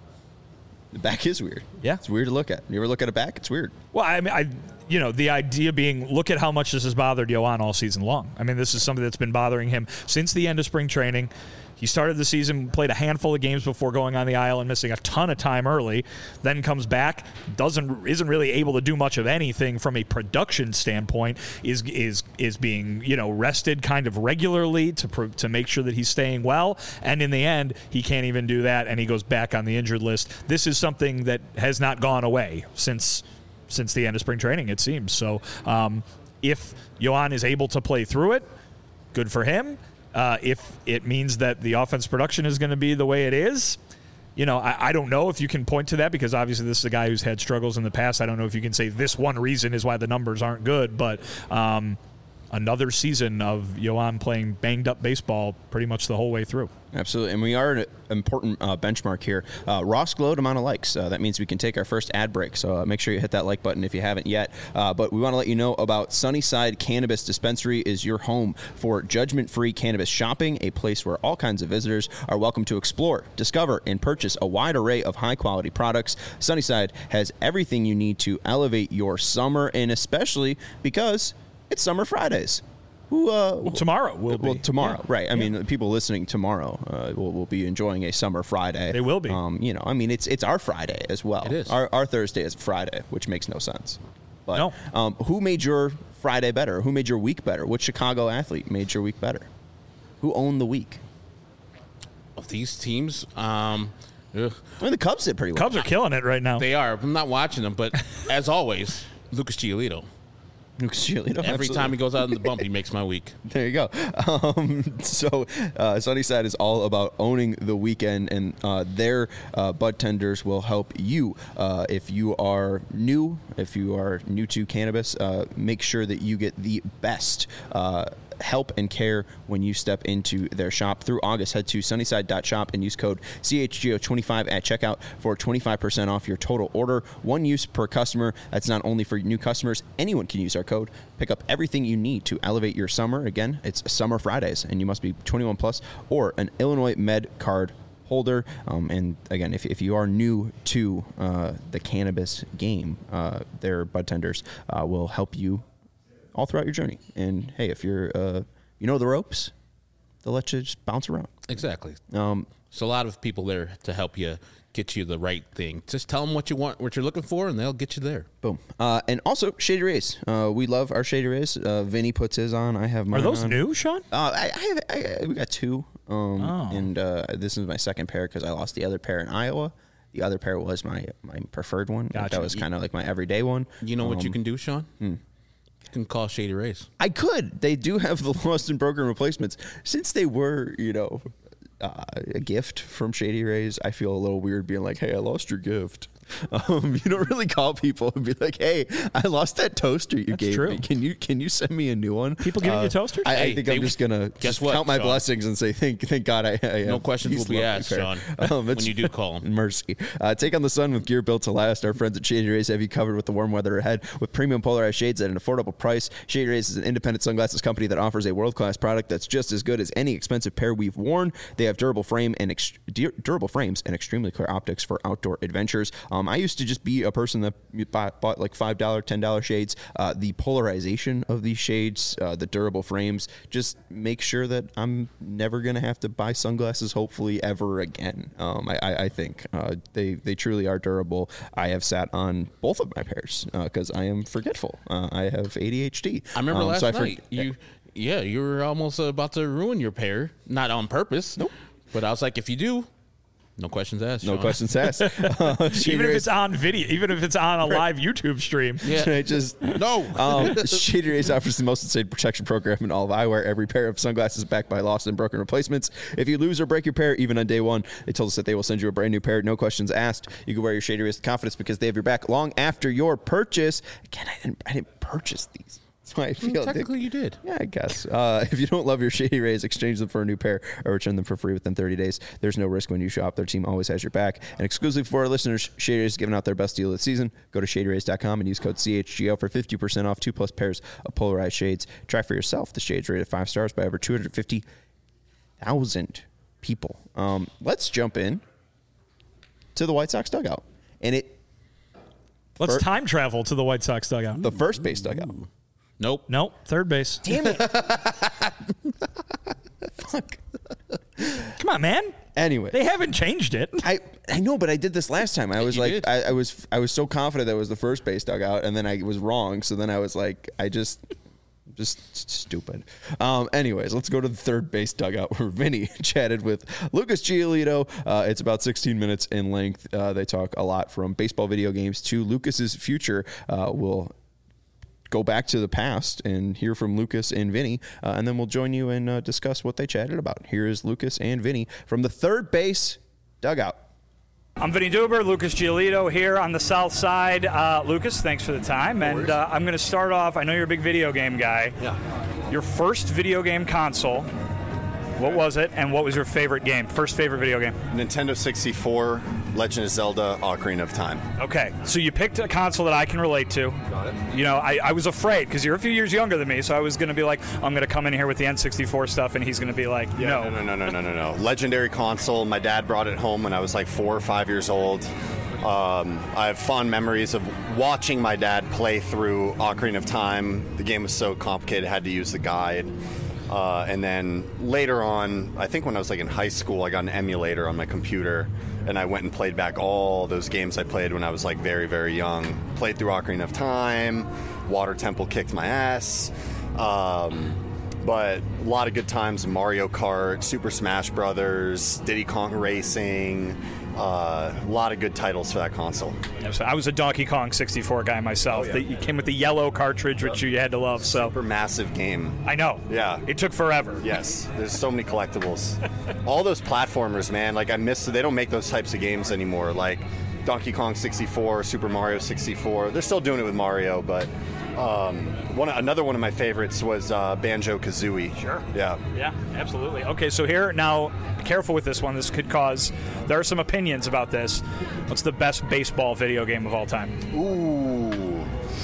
The back is weird. Yeah. It's weird to look at. You ever look at a back? It's weird. Well, I mean, I, you know, the idea being, look at how much this has bothered Yoan all season long. I mean, this is something that's been bothering him since the end of spring training. He started the season, played a handful of games before going on the aisle and missing a ton of time early, then comes back, doesn't isn't really able to do much of anything from a production standpoint, is is is being, you know, rested kind of regularly to to make sure that he's staying well, and in the end, he can't even do that, and he goes back on the injured list. This is something that has not gone away since since the end of spring training, it seems. So um, if Yoan is able to play through it, good for him. Uh, if it means that the offense production is going to be the way it is, you know, I, I don't know if you can point to that, because obviously this is a guy who's had struggles in the past. I don't know if you can say this one reason is why the numbers aren't good, but um, another season of Yoan playing banged-up baseball pretty much the whole way through. Absolutely, and we are an important uh, benchmark here. Uh, Ross glowed amount of likes. Uh, that means we can take our first ad break, so uh, make sure you hit that like button if you haven't yet. Uh, but we want to let you know about Sunnyside Cannabis Dispensary is your home for judgment-free cannabis shopping, a place where all kinds of visitors are welcome to explore, discover, and purchase a wide array of high-quality products. Sunnyside has everything you need to elevate your summer, and especially because it's Summer Fridays. Who, uh, well, tomorrow will be. Well, tomorrow, yeah. right. I yeah. mean, people listening tomorrow uh, will, will be enjoying a Summer Friday. They will be. Um, you know, I mean, it's it's our Friday as well. It is. Our, our Thursday is Friday, which makes no sense. But no. um, who made your Friday better? Who made your week better? Which Chicago athlete made your week better? Who owned the week? Of these teams, um, ugh. I mean, the Cubs did pretty well. Cubs are killing it right now. They are. I'm not watching them, but as always, Lucas Giolito. Lucas Giolito. Every Absolutely. time he goes out in the bump, he makes my week. There you go. Um, so uh, Sunnyside is all about owning the weekend, and uh, their uh, bud tenders will help you. Uh, if you are new, if you are new to cannabis, uh, make sure that you get the best uh, help and care when you step into their shop. Through August, head to sunnyside dot shop and use code C H G O twenty-five at checkout for twenty-five percent off your total order. One use per customer. That's not only for new customers. Anyone can use our code. Pick up everything you need to elevate your summer. Again, it's Summer Fridays, and you must be twenty-one plus or an Illinois Med card holder. Um, and again, if, if you are new to uh, the cannabis game, uh, their bud tenders uh, will help you all throughout your journey. And hey, if you're, uh, you know the ropes, they'll let you just bounce around. Exactly. Um, so a lot of people there to help you get you the right thing. Just tell them what you want, what you're looking for, and they'll get you there. Boom. Uh, and also Shady Rays. Uh, we love our Shady Rays. Uh, Vinny puts his on. I have mine Are those on. new, Sean? Uh, I, I have. I, we got two. Um, Oh. And uh, this is my second pair because I lost the other pair in Iowa. The other pair was my my preferred one. Gotcha. That was kind of like my everyday one. You know what you Um, can do, Sean? hmm. You can call Shady Rays. I could. They do have the lost and broken replacements. Since they were, you know, uh, a gift from Shady Rays, I feel a little weird being like, hey, I lost your gift. Um, you don't really call people and be like, "Hey, I lost that toaster you That's gave true. me. Can you can you send me a new one?" People giving you toasters? I, I Hey, think they- I'm just gonna guess just what, count my Sean? blessings and say, "Thank thank God I." I No have questions these will be lovely asked, pair." Sean, Um, when it's- you do call 'em. Mercy. Uh, take on the sun with gear built to last. Our friends at Shady Rays have you covered with the warm weather ahead with premium polarized shades at an affordable price. Shady Rays is an independent sunglasses company that offers a world-class product that's just as good as any expensive pair we've worn. They have durable frame and ex- dur- durable frames and extremely clear optics for outdoor adventures. Um, I used to just be a person that bought, bought like five dollars, ten dollars shades. Uh, the polarization of these shades, uh, the durable frames, just make sure that I'm never going to have to buy sunglasses, hopefully, ever again. Um, I, I, I think uh, they, they truly are durable. I have sat on both of my pairs because I am forgetful. Uh, I have A D H D. I remember Um, last so I for- night. You, yeah, you were almost about to ruin your pair, not on purpose. Nope. But I was like, if you do, no questions asked. No Sean. questions asked. Uh, Shady Even if Rays- it's on video, even if it's on a live YouTube stream. Yeah. I just No. Um, Shady Rays offers the most insane protection program in all of eyewear. Every pair of sunglasses backed by lost and broken replacements. If you lose or break your pair, even on day one, they told us that they will send you a brand new pair. No questions asked. You can wear your Shady Rays with confidence because they have your back long after your purchase. Again, I didn't, I didn't purchase these. That's why I feel Technically, you did. Yeah, I guess. Uh, if you don't love your Shady Rays, exchange them for a new pair or return them for free within thirty days. There's no risk when you shop. Their team always has your back. And exclusively for our listeners, Shady Rays is giving out their best deal of the season. Go to shady rays dot com and use code C H G O for fifty percent off two plus pairs of polarized shades. Try for yourself. The shades rated five stars by over two hundred fifty thousand people. Um, let's jump in to the White Sox dugout. And it Let's Fir- time travel to the White Sox dugout. the first base dugout. Nope. Nope, third base. Damn it. Fuck. Come on, man. Anyway. They haven't changed it. I, I know, but I did this last time. I was You like, did. I, I was I was so confident that it was the first base dugout, and then I was wrong. So then I was like, I just, just stupid. Um, anyways, let's go to the third base dugout where Vinny chatted with Lucas Giolito. Uh, it's about sixteen minutes in length. Uh, they talk a lot from baseball, video games to Lucas's future. Uh, we'll go back to the past and hear from Lucas and Vinny, uh, and then we'll join you and uh, discuss what they chatted about. Here is Lucas and Vinny from the third base dugout. I'm Vinny Duber, Lucas Giolito here on the south side. Uh, Lucas, thanks for the time. And uh, I'm going to start off, I know you're a big video game guy. Yeah. Your first video game console, what was it, and what was your favorite game? First favorite video game? Nintendo sixty-four, Legend of Zelda, Ocarina of Time. Okay, so you picked a console that I can relate to. Got it. You know, I, I was afraid because you're a few years younger than me, so I was going to be like, I'm going to come in here with the N sixty-four stuff, and he's going to be like, no. No, no, no, no, no, no, no. Legendary console. My dad brought it home when I was like four or five years old. Um, I have fond memories of watching my dad play through Ocarina of Time. The game was so complicated, I had to use the guide. Uh, and then later on, I think when I was like in high school, I got an emulator on my computer, and I went and played back all those games I played when I was like very, very young. Played through Ocarina of Time, Water Temple kicked my ass. Um, but a lot of good times, Mario Kart, Super Smash Brothers, Diddy Kong Racing, uh, a lot of good titles for that console. Yeah, so I was a Donkey Kong sixty-four guy myself. The- it came with the yellow cartridge, which you had to love. So Super massive game. I know. Yeah. It took forever. Yes, there's so many collectibles. All those platformers, man, like I miss, they don't make those types of games anymore. Like Donkey Kong sixty-four, Super Mario sixty-four. They're still doing it with Mario, but um, one another one of my favorites was uh, Banjo-Kazooie. Sure. Yeah. Yeah, absolutely. Okay, so here, now, be careful with this one. This could cause, there are some opinions about this. What's the best baseball video game of all time? Ooh.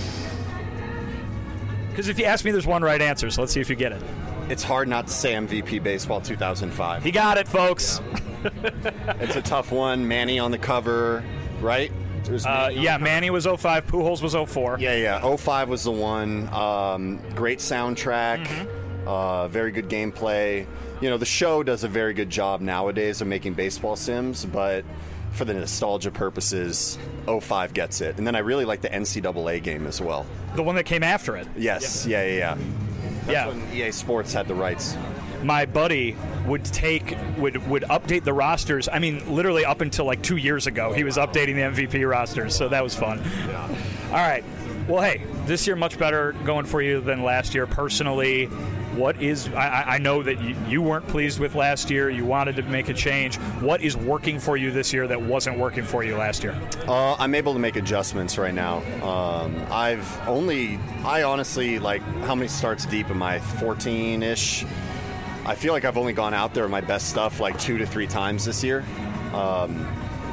Because if you ask me, there's one right answer, so let's see if you get it. It's hard not to say M V P Baseball two thousand five. He got it, folks. It's a tough one. Manny on the cover, right? There's Uh, Manny on yeah, the cover. Manny was oh five, Pujols was oh four. Yeah, yeah. oh five was the one. Um, great soundtrack. Mm-hmm. Uh, very good gameplay. You know, the show does a very good job nowadays of making baseball sims, but for the nostalgia purposes, oh five gets it. And then I really like the N C double A game as well. The one that came after it. Yes, yeah, yeah, yeah. That's Yeah. when E A Sports had the rights. my buddy would take would would update the rosters. I mean, literally up until like two years ago, he was updating the M V P rosters. So that was fun. Yeah. All right. Well, hey, this year much better going for you than last year. Personally, what is I, I know that you, you weren't pleased with last year. You wanted to make a change. What is working for you this year that wasn't working for you last year? Uh, I'm able to make adjustments right now. Um, I've only, I honestly, like, how many starts deep am I? fourteen-ish? I feel like I've only gone out there with my best stuff like two to three times this year. Um,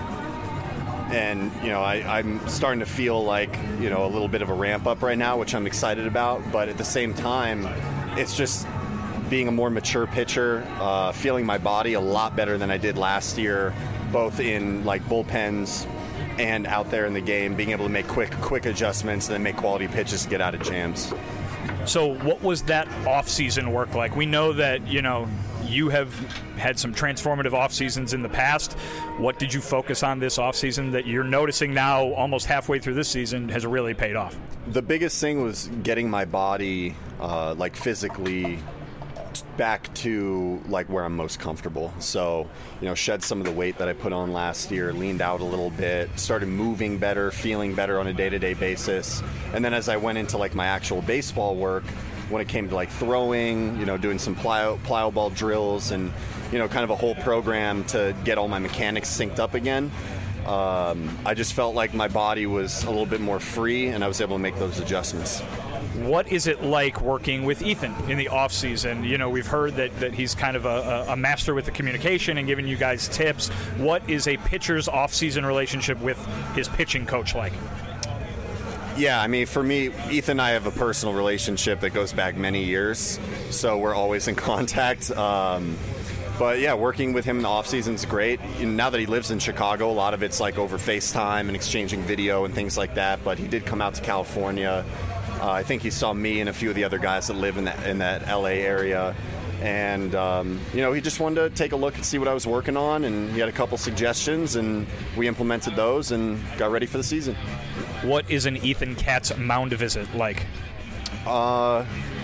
and, you know, I, I'm starting to feel like, you know, a little bit of a ramp up right now, which I'm excited about. But at the same time, it's just being a more mature pitcher, uh, feeling my body a lot better than I did last year, both in like bullpens and out there in the game, being able to make quick, quick adjustments and then make quality pitches to get out of jams. So what was that off-season work like? We know that, you know, you have had some transformative off-seasons in the past. What did you focus on this off-season that you're noticing now almost halfway through this season has really paid off? The biggest thing was getting my body uh, like physically back to like where I'm most comfortable. So, you know, shed some of the weight that I put on last year, leaned out a little bit, started moving better, feeling better on a day-to-day basis. And then as I went into like my actual baseball work, when it came to like throwing, you know, doing some plyo, plyo ball drills and, you know, kind of a whole program to get all my mechanics synced up again, um, I just felt like my body was a little bit more free and I was able to make those adjustments. What is it like working with Ethan in the off season? You know, we've heard that, that he's kind of a, a master with the communication and giving you guys tips. What is a pitcher's off season relationship with his pitching coach like? Yeah, I mean, for me, Ethan and I have a personal relationship that goes back many years, so we're always in contact. Um, but yeah, working with him in the off season is great. And now that he lives in Chicago, a lot of it's like over FaceTime and exchanging video and things like that. But he did come out to California. Uh, I think he saw me and a few of the other guys that live in that in that L A area. And, um, you know, he just wanted to take a look and see what I was working on, and he had a couple suggestions, and we implemented those and got ready for the season. What is an Ethan Katz mound visit like? Uh,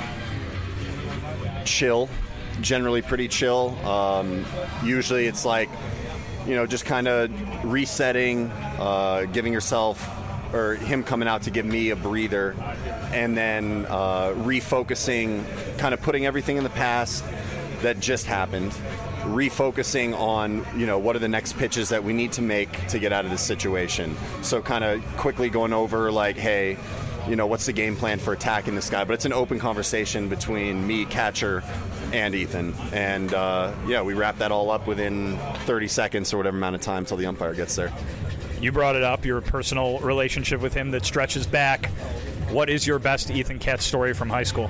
chill. Generally pretty chill. Um, usually it's like, you know, just kind of resetting, uh, giving yourself, or him coming out to give me a breather, and then uh, refocusing, kind of putting everything in the past that just happened, refocusing on, you know, what are the next pitches that we need to make to get out of this situation. So kind of quickly going over like, hey, you know, what's the game plan for attacking this guy? But it's an open conversation between me, catcher, and Ethan. And, uh, yeah, we wrap that all up within thirty seconds or whatever amount of time till the umpire gets there. You brought it up, your personal relationship with him that stretches back. What is your best Ethan Katz story from high school?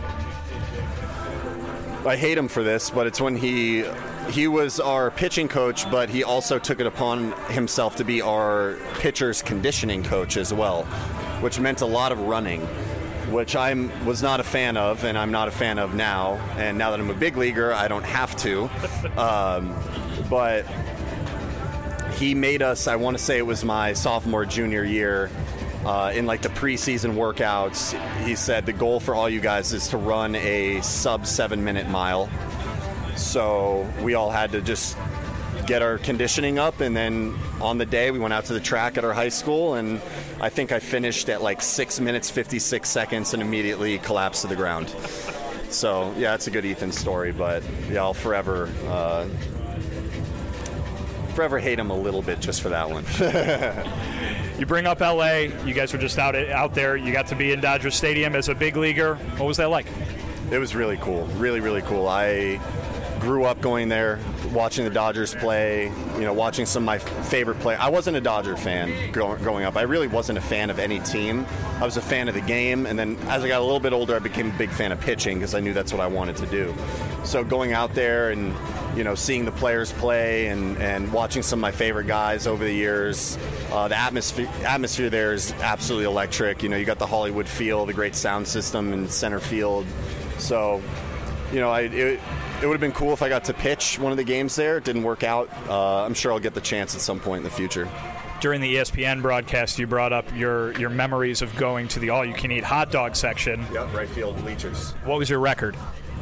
I hate him for this, but it's when he he was our pitching coach, but he also took it upon himself to be our pitcher's conditioning coach as well, which meant a lot of running, which I was not a fan of, and I'm not a fan of now. And now that I'm a big leaguer, I don't have to. Um, but he made us, I want to say it was my sophomore, junior year, uh, in like the preseason workouts, he said the goal for all you guys is to run a sub seven minute mile. So we all had to just get our conditioning up, and then on the day we went out to the track at our high school, and I think I finished at like six minutes, fifty-six seconds and immediately collapsed to the ground. So yeah, it's a good Ethan story, but yeah, I'll forever uh, forever hate him a little bit just for that one. You bring up L A. You guys were just out out there. You got to be in Dodger Stadium as a big leaguer. What was that like? It was really cool. Really, really cool. I grew up going there, watching the Dodgers play, you know, watching some of my favorite players. I wasn't a Dodger fan growing up. I really wasn't a fan of any team. I was a fan of the game, and then as I got a little bit older, I became a big fan of pitching because I knew that's what I wanted to do. So going out there and, you know, seeing the players play and, and watching some of my favorite guys over the years, uh, the atmosphere atmosphere there is absolutely electric. You know, you got the Hollywood feel, the great sound system in center field. So, you know, I it, it would have been cool if I got to pitch one of the games there. It didn't work out. Uh, I'm sure I'll get the chance at some point in the future. During the E S P N broadcast, you brought up your, your memories of going to the all-you-can-eat hot dog section. Yep, right field bleachers. What was your record?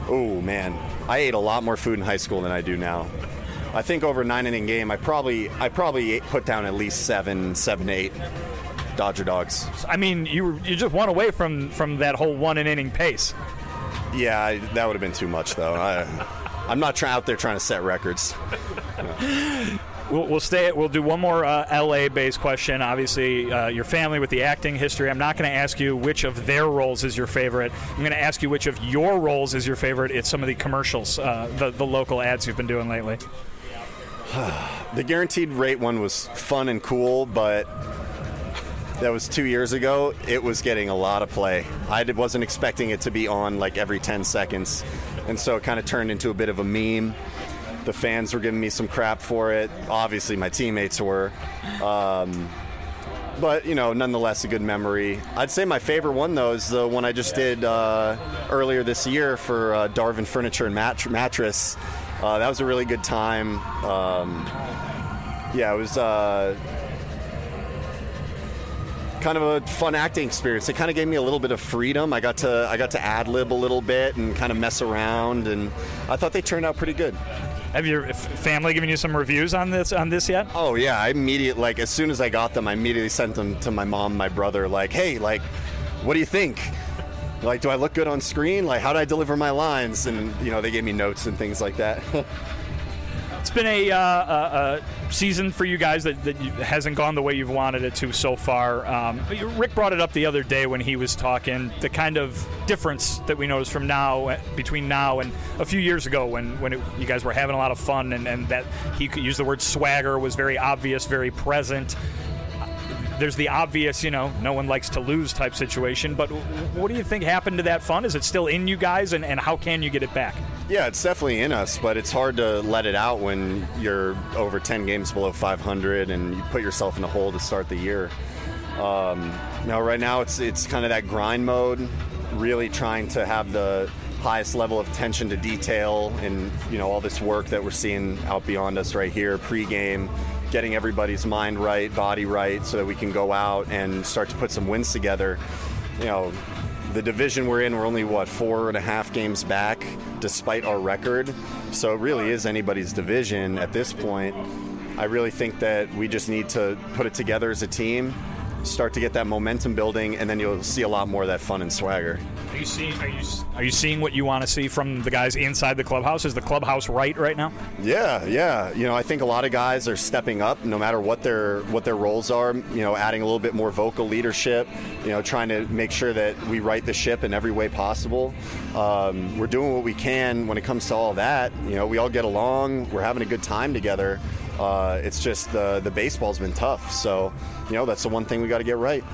Oh, man. I ate a lot more food in high school than I do now. I think over a nine-inning game, I probably I probably ate, put down at least seven, seven, eight Dodger dogs. I mean, you were, you just one away from, from that whole one-inning pace. Yeah, I, that would have been too much, though. I, I'm not try, out there trying to set records. No. We'll, we'll stay. We'll do one more uh, L A-based question. Obviously, uh, your family with the acting history. I'm not going to ask you which of their roles is your favorite. I'm going to ask you which of your roles is your favorite. It's some of the commercials, uh, the the local ads you've been doing lately. The guaranteed rate one was fun and cool, but that was two years ago. It was getting a lot of play. I wasn't expecting it to be on like every ten seconds, and so it kind of turned into a bit of a meme. The fans were giving me some crap for it. Obviously, my teammates were. Um, but, you know, nonetheless, a good memory. I'd say my favorite one, though, is the one I just did uh, earlier this year for uh, Darvin Furniture and Mat- Mattress. Uh, that was a really good time. Um, yeah, it was uh, kind of a fun acting experience. It kind of gave me a little bit of freedom. I got to I got to ad-lib a little bit and kind of mess around, and I thought they turned out pretty good. Have your family given you some reviews on this on this yet? Oh yeah, I immediately like as soon as I got them, I immediately sent them to my mom, my brother. Like, hey, like, what do you think? Like, do I look good on screen? Like, how do I deliver my lines? And you know, they gave me notes and things like that. It's been a, uh, a, a season for you guys that, that hasn't gone the way you've wanted it to so far. Um, Rick brought it up the other day when he was talking, the kind of difference that we noticed from now, between now and a few years ago when, when it, you guys were having a lot of fun, and, and that he could use the word swagger was very obvious, very present. There's the obvious, you know, no one likes to lose type situation, but what do you think happened to that fun? Is it still in you guys, and, and how can you get it back? Yeah, it's definitely in us, but it's hard to let it out when you're over ten games below five hundred and you put yourself in a hole to start the year. Um, you know, right now it's it's kind of that grind mode, really trying to have the highest level of attention to detail and, you know, all this work that we're seeing out beyond us right here, pregame, getting everybody's mind right, body right, so that we can go out and start to put some wins together. You know, the division we're in, we're only, what, four and a half games back, despite our record. So it really is anybody's division at this point. I really think that we just need to put it together as a team, start to get that momentum building, and then you'll see a lot more of that fun and swagger. Are you seeing? Are you are you seeing what you want to see from the guys inside the clubhouse? Is the clubhouse right right now? Yeah, yeah. You know, I think a lot of guys are stepping up, no matter what their what their roles are. You know, adding a little bit more vocal leadership. You know, trying to make sure that we right the ship in every way possible. Um, we're doing what we can when it comes to all that. You know, we all get along. We're having a good time together. Uh, it's just the the baseball's been tough. So, you know, that's the one thing we got to get right.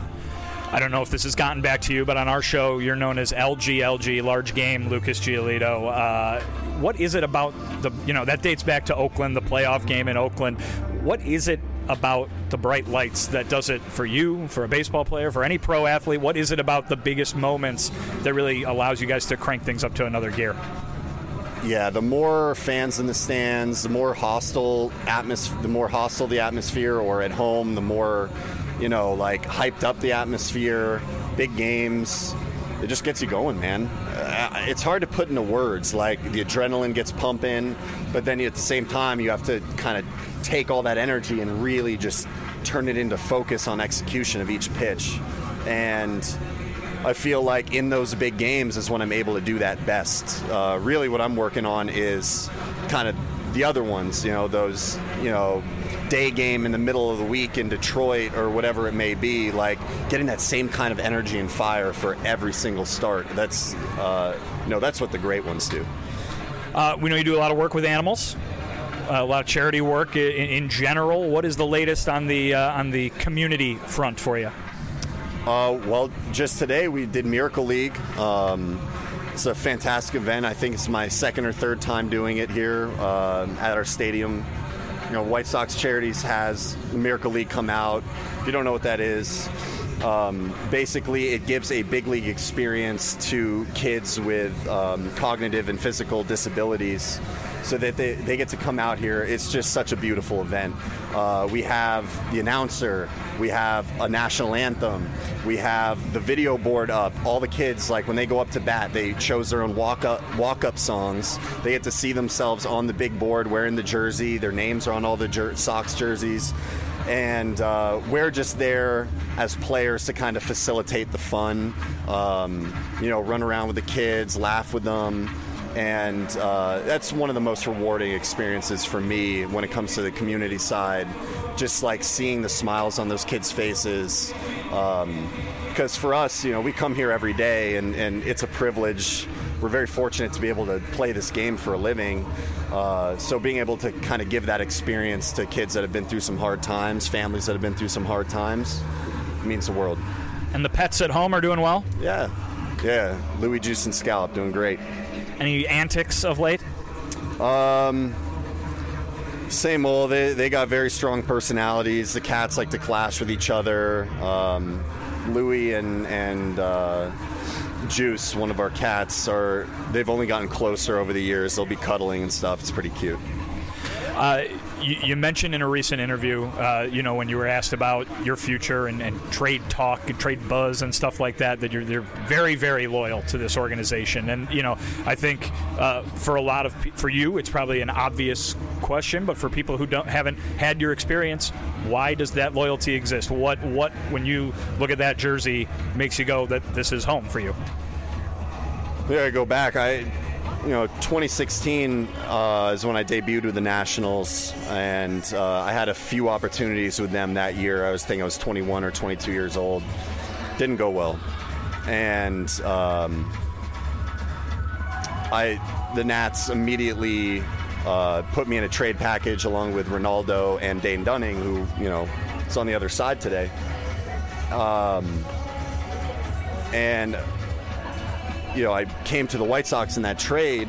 I don't know if this has gotten back to you, but on our show, you're known as L G L G, Large Game, Lucas Giolito. Uh, what is it about the, you know, that dates back to Oakland, the playoff game in Oakland. What is it about the bright lights that does it for you, for a baseball player, for any pro athlete? What is it about the biggest moments that really allows you guys to crank things up to another gear? Yeah, the more fans in the stands, the more hostile atmos- the more hostile the atmosphere, or at home, the more, you know, like hyped up the atmosphere, big games. It just gets you going, man. Uh, it's hard to put into words. Like, the adrenaline gets pumping, but then at the same time, you have to kind of take all that energy and really just turn it into focus on execution of each pitch. And I feel like in those big games is when I'm able to do that best. Uh, really what I'm working on is kind of the other ones, you know, those, you know, day game in the middle of the week in Detroit or whatever it may be, like getting that same kind of energy and fire for every single start. That's, uh, you know, that's what the great ones do. Uh, we know you do a lot of work with animals, uh, a lot of charity work in, in general. What is the latest on the uh, on the community front for you? Uh, well, just today we did Miracle League. Um, it's a fantastic event. I think it's my second or third time doing it here uh, at our stadium. You know, White Sox Charities has the Miracle League come out. If you don't know what that is, Um, basically, it gives a big league experience to kids with um, cognitive and physical disabilities so that they, they get to come out here. It's just such a beautiful event. Uh, we have the announcer. We have a national anthem. We have the video board up. All the kids, like when they go up to bat, they chose their own walk-up walk-up songs. They get to see themselves on the big board wearing the jersey. Their names are on all the jer- Sox jerseys. And uh, we're just there as players to kind of facilitate the fun, um, you know, run around with the kids, laugh with them. And uh, that's one of the most rewarding experiences for me when it comes to the community side, just like seeing the smiles on those kids' faces. Um, because for us, you know, we come here every day, and, and it's a privilege. We're very fortunate to be able to play this game for a living. Uh, so being able to kind of give that experience to kids that have been through some hard times, families that have been through some hard times, means the world. And the pets at home are doing well? Yeah. Yeah. Louis Juice and Scallop doing great. Any antics of late? Um, same old. They, they got very strong personalities. The cats like to clash with each other. Um, Louis and, and uh, Juice, one of our cats, are they've only gotten closer over the years. They'll be cuddling and stuff. It's pretty cute. Uh, you, you mentioned in a recent interview, uh, you know, when you were asked about your future and, and trade talk and trade buzz and stuff like that, that you're they're very, very loyal to this organization. And, you know, I think uh, for a lot of for you, it's probably an obvious question, but for people who don't haven't had your experience, why does that loyalty exist? What what when you look at that jersey makes you go that this is home for you? Yeah, I go back. I. You know, twenty sixteen uh, is when I debuted with the Nationals, and uh, I had a few opportunities with them that year. I was thinking I was twenty-one or twenty-two years old. Didn't go well, and um, I the Nats immediately uh, put me in a trade package along with Ronaldo and Dane Dunning, who you know is on the other side today, um, and. You know, I came to the White Sox in that trade,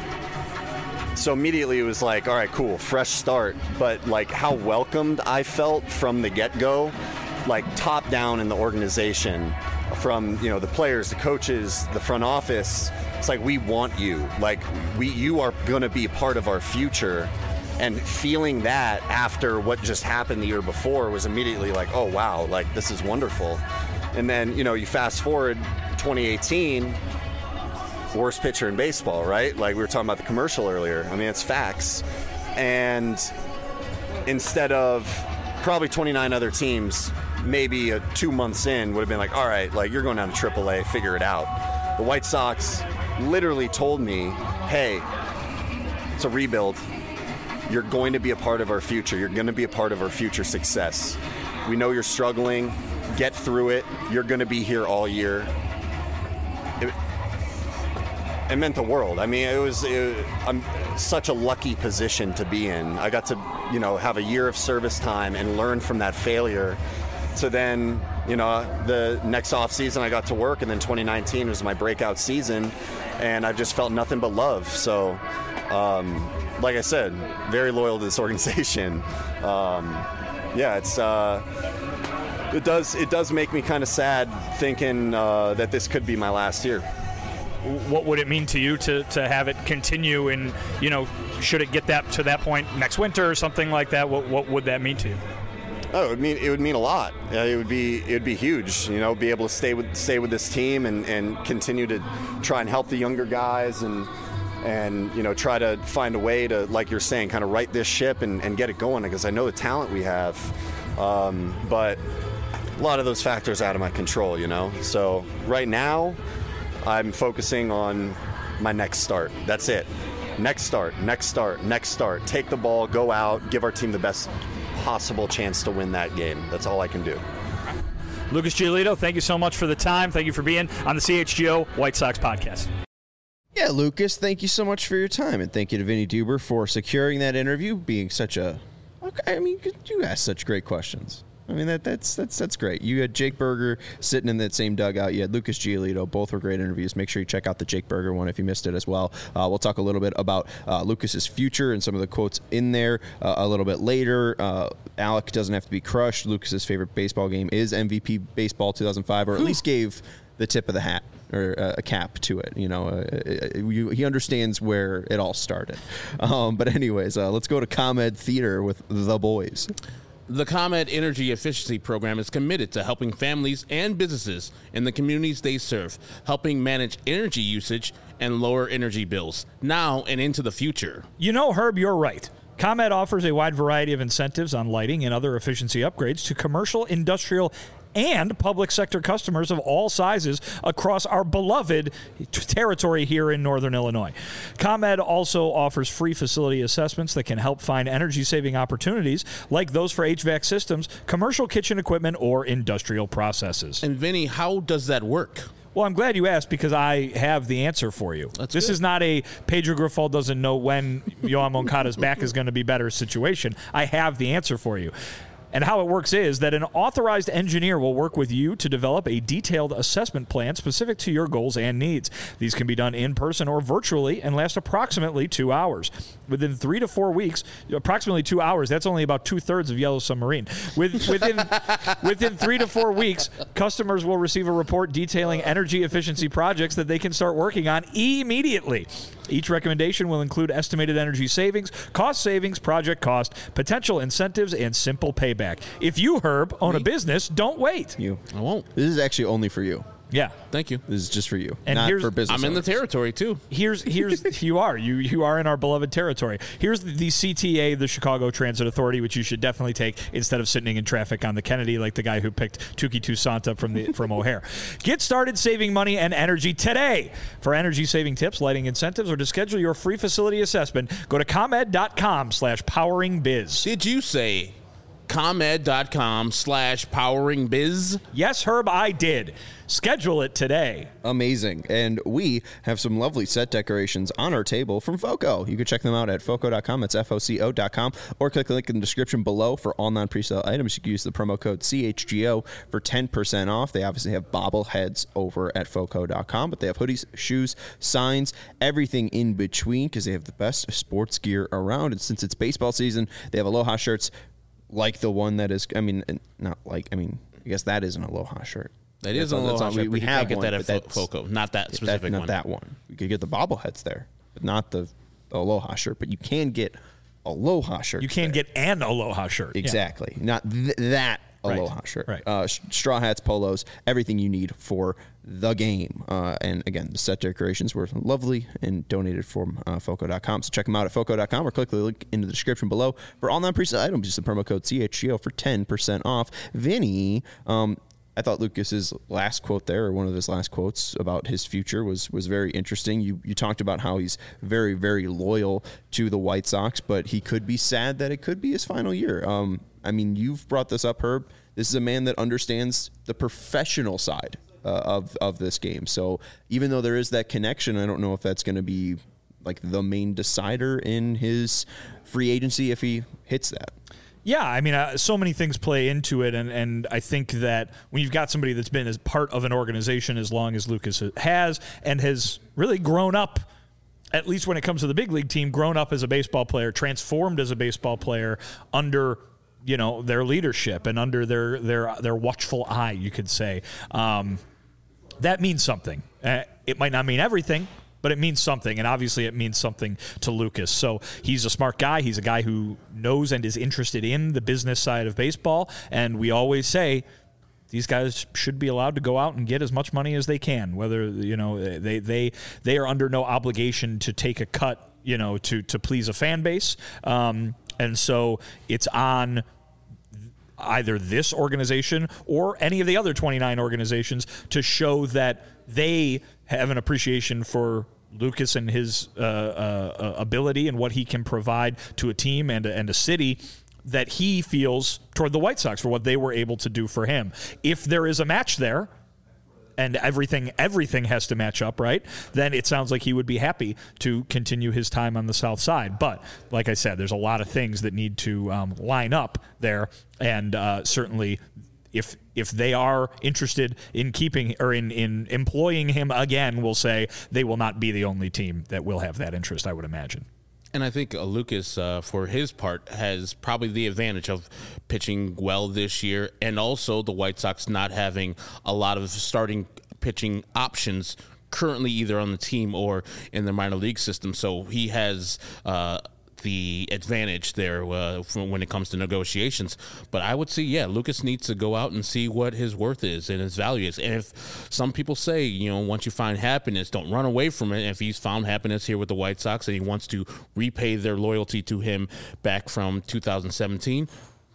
so immediately it was like, all right, cool, fresh start. But like how welcomed I felt from the get-go, like top down in the organization, from you know the players, the coaches, the front office. It's like we want you, like we, you are gonna be part of our future. And feeling that after what just happened the year before was immediately like, oh wow, like this is wonderful. And then you know you fast forward twenty eighteen. Worst pitcher in baseball, right? Like we were talking about the commercial earlier. I mean, it's facts. And instead of probably twenty-nine other teams, maybe a two months in would have been like, all right, like you're going down to triple A, figure it out. The White Sox literally told me, hey, it's a rebuild. You're going to be a part of our future. You're going to be a part of our future success. We know you're struggling. Get through it. You're going to be here all year. It, It meant the world. I mean, it was it, I'm such a lucky position to be in. I got to, you know, have a year of service time and learn from that failure. So then, you know, the next off season I got to work, and then twenty nineteen was my breakout season, and I've just felt nothing but love. So, um, like I said, very loyal to this organization. Um, yeah, it's uh, it does it does make me kind of sad thinking uh, that this could be my last year. What would it mean to you to, to have it continue, and you know, should it get that to that point next winter or something like that? What what would that mean to you? Oh, it would mean it would mean a lot. Uh, it would be it would be huge. You know, be able to stay with stay with this team and, and continue to try and help the younger guys and and you know try to find a way to, like you're saying, kind of right this ship and, and get it going, because I know the talent we have, um, but a lot of those factors out of my control. You know, so right now. I'm focusing on my next start. That's it. Next start, next start, next start. Take the ball, go out, give our team the best possible chance to win that game. That's all I can do. Lucas Giolito, thank you so much for the time. Thank you for being on the C H G O White Sox podcast. Yeah, Lucas, thank you so much for your time. And thank you to Vinny Duber for securing that interview, being such a... Okay, I mean, you asked such great questions. I mean, that that's that's that's great. You had Jake Berger sitting in that same dugout. You had Lucas Giolito. Both were great interviews. Make sure you check out the Jake Berger one if you missed it as well. Uh, we'll talk a little bit about uh, Lucas's future and some of the quotes in there uh, a little bit later. Uh, Alec doesn't have to be crushed. Lucas's favorite baseball game is M V P Baseball two thousand five, or at least gave the tip of the hat or uh, a cap to it. You know, uh, you, he understands where it all started. Um, but anyways, uh, let's go to ComEd Theater with the boys. The ComEd Energy Efficiency Program is committed to helping families and businesses in the communities they serve, helping manage energy usage and lower energy bills now and into the future. You know, Herb, you're right. ComEd offers a wide variety of incentives on lighting and other efficiency upgrades to commercial, industrial, and public sector customers of all sizes across our beloved territory here in Northern Illinois. ComEd also offers free facility assessments that can help find energy-saving opportunities like those for H V A C systems, commercial kitchen equipment, or industrial processes. And Vinny, how does that work? Well, I'm glad you asked because I have the answer for you. That's this good. is not a Pedro Grifol doesn't know when Yoan Moncada's back is going to be better situation. I have the answer for you. And how it works is that an authorized engineer will work with you to develop a detailed assessment plan specific to your goals and needs. These can be done in person or virtually and last approximately two hours. Within three to four weeks, approximately two hours, that's only about two-thirds of Yellow Submarine. With, within, within three to four weeks, customers will receive a report detailing energy efficiency projects that they can start working on immediately. Each recommendation will include estimated energy savings, cost savings, project cost, potential incentives, and simple payback. If you, Herb, own a business, don't wait. You. I won't. This is actually only for you. Yeah. Thank you. This is just for you, And not here's- for business I'm in the owners. territory, too. Here's here's you are you you are in our beloved territory. Here's the, the C T A, the Chicago Transit Authority, which you should definitely take instead of sitting in traffic on the Kennedy like the guy who picked Tuki Toussaint from the from O'Hare. Get started saving money and energy today. For energy saving tips, lighting incentives, or to schedule your free facility assessment, go to comed.com slash powering biz. Did you say comed.com slash powering biz? Yes, Herb, I did. Schedule it today. Amazing. And we have some lovely set decorations on our table from Foco. You can check them out at foco dot com. That's F O C O dot com. Or click the link in the description below for all non-presale items. You can use the promo code C H G O for ten percent off. They obviously have bobbleheads over at foco dot com, but they have hoodies, shoes, signs, everything in between because they have the best sports gear around. And since it's baseball season, they have Aloha shirts like the one that is, I mean, not like, I mean, I guess that is an Aloha shirt. That is That's an all- that's Aloha all- shirt, we, but we you have can't get one, that at but Fo- that's- Foco. Not that that- specific not one. that one. You could get the bobbleheads there, but not the, the Aloha shirt. But you can get Aloha shirt. You can get an Aloha shirt. Yeah. exactly not th- that Right. Aloha shirt. Right. Uh, sh- straw hats, polos, everything you need for the game. Uh, and again, the set decorations were lovely and donated from uh, foco dot com. So check them out at foco dot com or click the link in the description below for all non-presale items. Use the promo code C H G O for ten percent off. Vinny, um, I thought Lucas's last quote there, or one of his last quotes about his future, was was very interesting. You you talked about how he's very, very loyal to the White Sox, but he could be sad that it could be his final year. Um, I mean, you've brought this up, Herb. This is a man that understands the professional side uh, of of this game. So even though there is that connection, I don't know if that's going to be like the main decider in his free agency if he hits that. Yeah, I mean, uh, so many things play into it, and, and I think that when you've got somebody that's been as part of an organization as long as Lucas has and has really grown up, at least when it comes to the big league team, grown up as a baseball player, transformed as a baseball player under, you know, their leadership and under their their their watchful eye, you could say. Um, that means something. Uh, it might not mean everything, but it means something, and obviously it means something to Lucas. So he's a smart guy. He's a guy who knows and is interested in the business side of baseball, and we always say these guys should be allowed to go out and get as much money as they can, whether, you know, they they they are under no obligation to take a cut, you know, to to please a fan base. Um, and so it's on either this organization or any of the other twenty-nine organizations to show that they have an appreciation for Lucas and his uh, uh, ability and what he can provide to a team and a, and a city that he feels toward the White Sox for what they were able to do for him. If there is a match there, and everything everything has to match up, right? Then it sounds like he would be happy to continue his time on the south side. But like I said, there's a lot of things that need to um, line up there, and uh, certainly if if they are interested in keeping or in, in employing him again, we'll say they will not be the only team that will have that interest, I would imagine. And I think uh, Lucas, uh, for his part, has probably the advantage of pitching well this year, and also the White Sox not having a lot of starting pitching options currently either on the team or in the minor league system. So he has uh, the advantage there uh, when it comes to negotiations. But I would say, yeah, Lucas needs to go out and see what his worth is and his value is. And if some people say, you know, once you find happiness, don't run away from it. If he's found happiness here with the White Sox and he wants to repay their loyalty to him back from two thousand seventeen,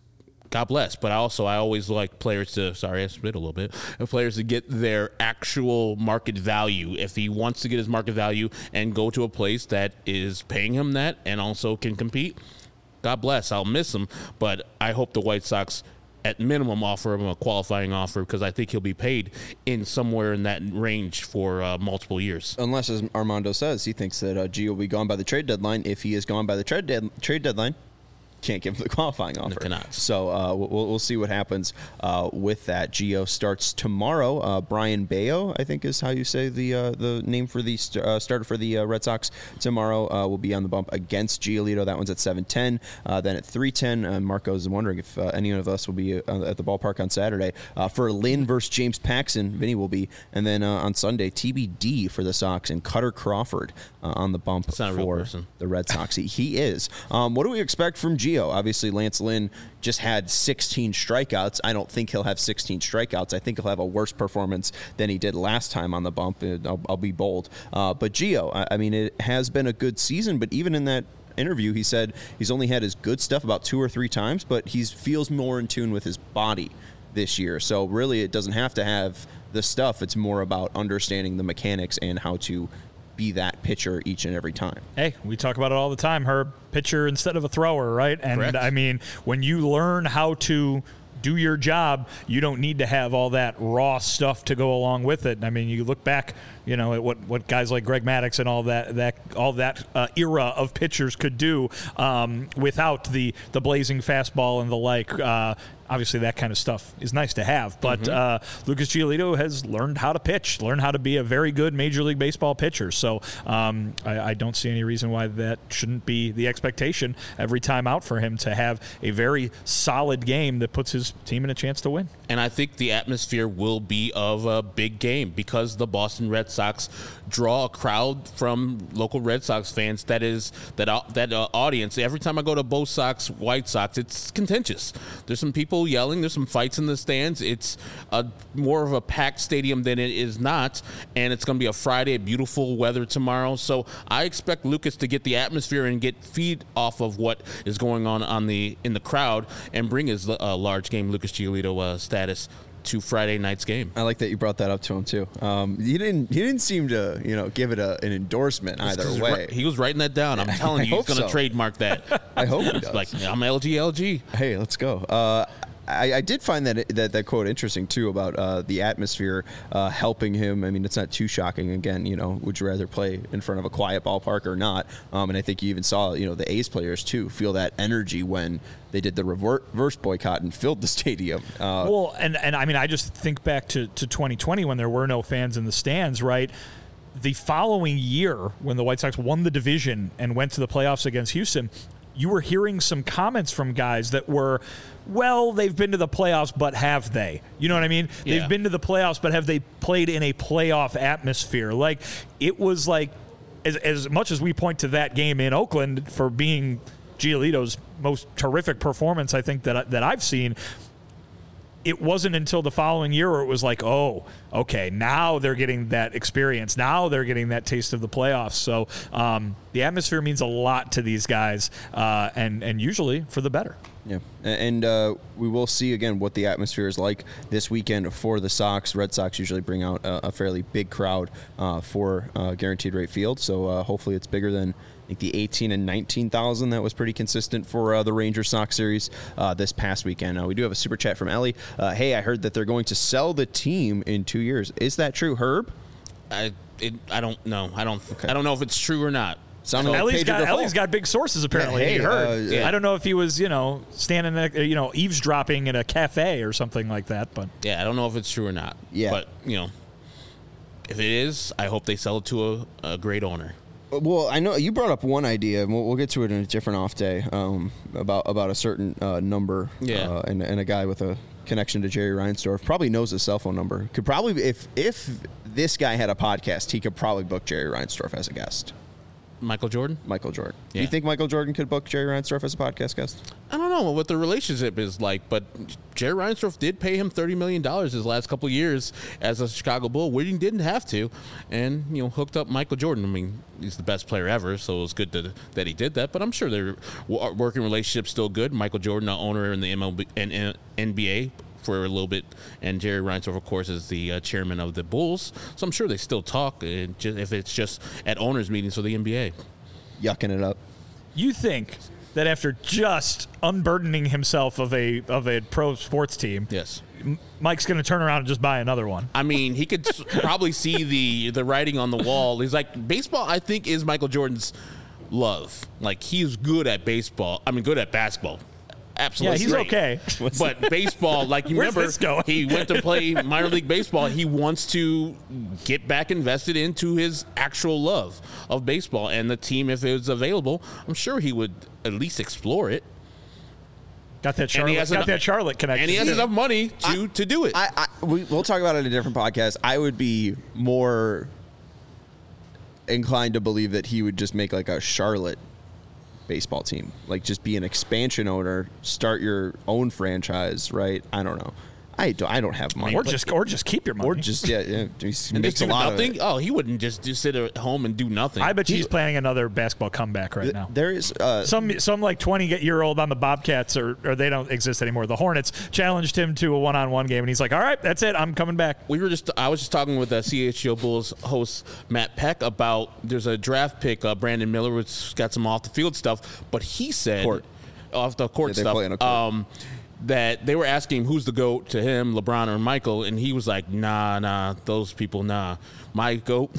God bless. But also, I always like players to, sorry, I spit a little bit, players to get their actual market value. If he wants to get his market value and go to a place that is paying him that and also can compete, God bless. I'll miss him. But I hope the White Sox, at minimum, offer him a qualifying offer, because I think he'll be paid in somewhere in that range for uh, multiple years. Unless, as Armando says, he thinks that uh, Gio will be gone by the trade deadline. If he is gone by the trade, dead- trade deadline, can't give him the qualifying offer. Cannot. So uh, we'll, we'll see what happens uh, with that. Gio starts tomorrow. Uh, Brian Bayo, I think is how you say the uh, the name for the st- uh, starter for the uh, Red Sox tomorrow, uh, will be on the bump against Giolito. That one's at seven ten. Uh, then at three ten, uh, Marco is wondering if uh, any of us will be uh, at the ballpark on Saturday. Uh, for Lynn versus James Paxton, Vinny will be. And then uh, on Sunday, T B D for the Sox and Cutter Crawford uh, on the bump That's not a real for person. the Red Sox. he, he is. Um, what do we expect from Gio? Obviously, Lance Lynn just had sixteen strikeouts. I don't think he'll have sixteen strikeouts. I think he'll have a worse performance than he did last time on the bump. I'll, I'll be bold. Uh, but Gio, I, I mean, it has been a good season, but even in that interview, he said he's only had his good stuff about two or three times, but he feels more in tune with his body this year. So really, it doesn't have to have the stuff. It's more about understanding the mechanics and how to be that pitcher each and every time. Hey, we talk about it all the time, Herb. Pitcher instead of a thrower, right? And Correct. I mean, when you learn how to do your job, you don't need to have all that raw stuff to go along with it. I mean, you look back, you know, at what, what guys like Greg Maddux and all that that all that uh, era of pitchers could do um, without the the blazing fastball and the like. Uh, Obviously, that kind of stuff is nice to have, but mm-hmm. uh, Lucas Giolito has learned how to pitch, learned how to be a very good Major League Baseball pitcher. So um, I, I don't see any reason why that shouldn't be the expectation every time out for him to have a very solid game that puts his team in a chance to win. And I think the atmosphere will be of a big game because the Boston Red Sox draw a crowd from local Red Sox fans that is that uh, that uh, audience. Every time I go to both Sox, White Sox, it's contentious. There's some people yelling. There's some fights in the stands. It's a more of a packed stadium than it is not, and it's going to be a Friday, beautiful weather tomorrow. So I expect Lucas to get the atmosphere and get feed off of what is going on on the in the crowd and bring his uh, large game Lucas Giolito uh, status to Friday night's game. I like that you brought that up to him too. Um, he didn't. He didn't seem to, you know, give it a, an endorsement either way. He was writing that down. I'm telling you, he's going to so. trademark that. I hope he does. Like, I'm L G L G. Hey, let's go. Uh, I, I did find that, that that quote interesting too about uh, the atmosphere uh, helping him. I mean, it's not too shocking. Again, you know, would you rather play in front of a quiet ballpark or not? Um, and I think you even saw, you know, the A's players too feel that energy when they did the reverse boycott and filled the stadium. Uh, well, and and I mean, I just think back to to twenty twenty when there were no fans in the stands, right? The following year, when the White Sox won the division and went to the playoffs against Houston, you were hearing some comments from guys that were, well, they've been to the playoffs, but have they? You know what I mean? Yeah. They've been to the playoffs, but have they played in a playoff atmosphere? Like, it was like, as, as much as we point to that game in Oakland for being Giolito's most terrific performance, I think, that, that I've seen, it wasn't until the following year where it was like, oh, okay, now they're getting that experience. Now they're getting that taste of the playoffs. So um, the atmosphere means a lot to these guys, uh, and, and usually for the better. Yeah, and uh, we will see again what the atmosphere is like this weekend for the Sox. Red Sox usually bring out a, a fairly big crowd uh, for uh, Guaranteed Rate Field, so uh, hopefully it's bigger than I think the eighteen and nineteen thousand that was pretty consistent for uh, the Rangers Sox series uh, this past weekend. Uh, we do have a super chat from Ellie. Uh, hey, I heard that they're going to sell the team in two years. Is that true, Herb? I it, I don't know. I don't Okay. I don't know if it's true or not. Sounded like Ellie's Pedro got, Grifol. Ellie's got big sources apparently. Yeah, hey, you heard. uh, yeah. I don't know if he was, you know, standing, at, you know, eavesdropping in a cafe or something like that. But Yeah, I don't know if it's true or not. Yeah. But, you know, if it is, I hope they sell it to a, a great owner. Well, I know you brought up one idea, and we'll, we'll get to it in a different off day um, about about a certain uh, number, Yeah. uh, and, and a guy with a connection to Jerry Reinsdorf probably knows his cell phone number. Could probably, if if this guy had a podcast, he could probably book Jerry Reinsdorf as a guest. Michael Jordan? Michael Jordan. Do Yeah. you think Michael Jordan could book Jerry Reinsdorf as a podcast guest? I don't know what the relationship is like, but Jerry Reinsdorf did pay him thirty million dollars his last couple of years as a Chicago Bull, where he didn't have to, and, you know, hooked up Michael Jordan. I mean, he's the best player ever, so it was good to, that he did that, but I'm sure their w- working relationship's still good. Michael Jordan, the owner in the M L B and N B A for a little bit, and Jerry Reinsdorf, of course, is the uh, chairman of the Bulls, so I'm sure they still talk, uh, just, if it's just at owners' meetings for the N B A. Yucking it up. you think that after just unburdening himself of a of a pro sports team, Yes. Mike's going to turn around and just buy another one? I mean, he could s- probably see the the writing on the wall. He's like, baseball, I think, is Michael Jordan's love. Like, he's good at baseball. I mean, good at basketball. Absolutely. Yeah, he's great. okay. But baseball, like, you Where's remember, this going? he went to play minor league baseball. He wants to get back invested into his actual love of baseball. And the team, if it was available, I'm sure he would at least explore it. Got that And he Charlotte, has got enough- that Charlotte connection. And he has too. enough money to, to do it. I, I we, we'll talk about it in a different podcast. I would be more inclined to believe that he would just make like a Charlotte baseball team, like just be an expansion owner, start your own franchise, right? I don't know. I don't. I don't have money. or just or just keep your money. or just yeah, yeah. He and makes just a do lot nothing? of it. Oh, he wouldn't just, just sit at home and do nothing. I bet He- she's planning another basketball comeback right now. There is uh, Some some like twenty year old on the Bobcats, or, or they don't exist anymore. The Hornets challenged him to a one on one game, and he's like, "All right, that's it. I'm coming back." We were just. I was just talking with the C H G O Bulls host Matt Peck about there's a draft pick, uh, Brandon Miller, which got some off the field stuff, but he said Court. off the court Yeah, they stuff. play on a court. Um, that they were asking him who's the GOAT to him, LeBron or Michael, and he was like, "Nah, nah, those people, nah. My GOAT,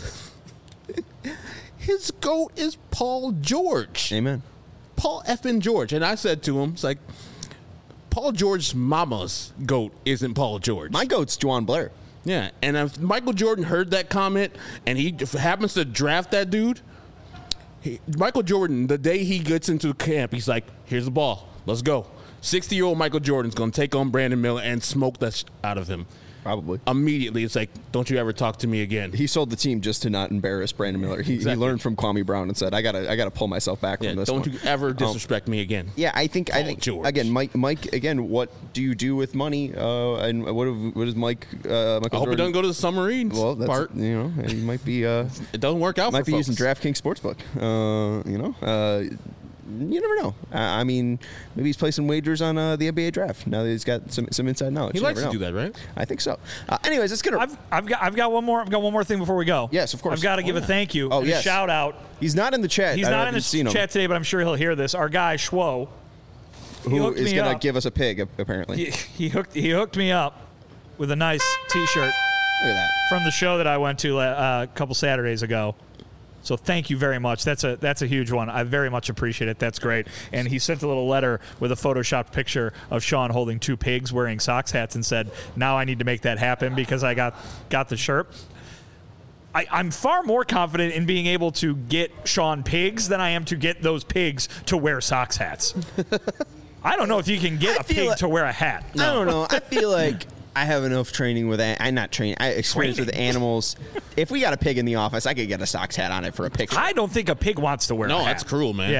his GOAT is Paul George, amen. Paul effing George." And I said to him, "It's like Paul George's mama's GOAT isn't Paul George." My goat's Juwan Blair. Yeah, and if Michael Jordan heard that comment and he f- happens to draft that dude, he, Michael Jordan, the day he gets into camp, he's like, "Here's the ball, let's go." sixty-year-old Michael Jordan's going to take on Brandon Miller and smoke that sh- out of him. Probably. Immediately, it's like, "Don't you ever talk to me again." He sold the team just to not embarrass Brandon Miller. He, Exactly. he learned from Kwame Brown and said, "I gotta, I gotta pull myself back Yeah, from this." don't one. you ever Um, disrespect me again. Yeah, I think I Paul think George. again, Mike. Mike again. What do you do with money? Uh, and what have- what is Mike? Uh, Michael I hope Jordan? he doesn't go to the submarines Well, that's part. you know, he might be. Uh, It doesn't work out might for be folks. using DraftKings Sportsbook. Uh, you know, uh, you never know. I, I mean, maybe he's placing wagers on uh, the N B A draft now that he's got some some inside knowledge. He You likes never to know. do that, right? I think so. Uh, anyways, it's gonna. I've I've got I've got one more I've got one more thing before we go. Yes, of course. I've got to give a thank you. Oh, and yes. a shout out. he's not in the chat. He's I not in haven't the seen him. chat today, but I'm sure he'll hear this. Our guy Schwo, he Who hooked is me gonna up. give us a pig? Apparently. he, he hooked he hooked me up with a nice T-shirt Look at that. from the show that I went to uh, a couple Saturdays ago. So thank you very much. That's a that's a huge one. I very much appreciate it. That's great. And he sent a little letter with a photoshopped picture of Sean holding two pigs wearing Sox hats and said, "Now I need to make that happen because I got got the shirt." I, I'm far more confident in being able to get Sean pigs than I am to get those pigs to wear Sox hats. I don't know if you can get I a feel pig like- to wear a hat. I don't know. I feel like I have enough training with. An- I'm not trained. I experience with animals. If we got a pig in the office, I could get a Sox hat on it for a picture. I don't think a pig wants to wear No, a hat. that's cruel, man. Yeah.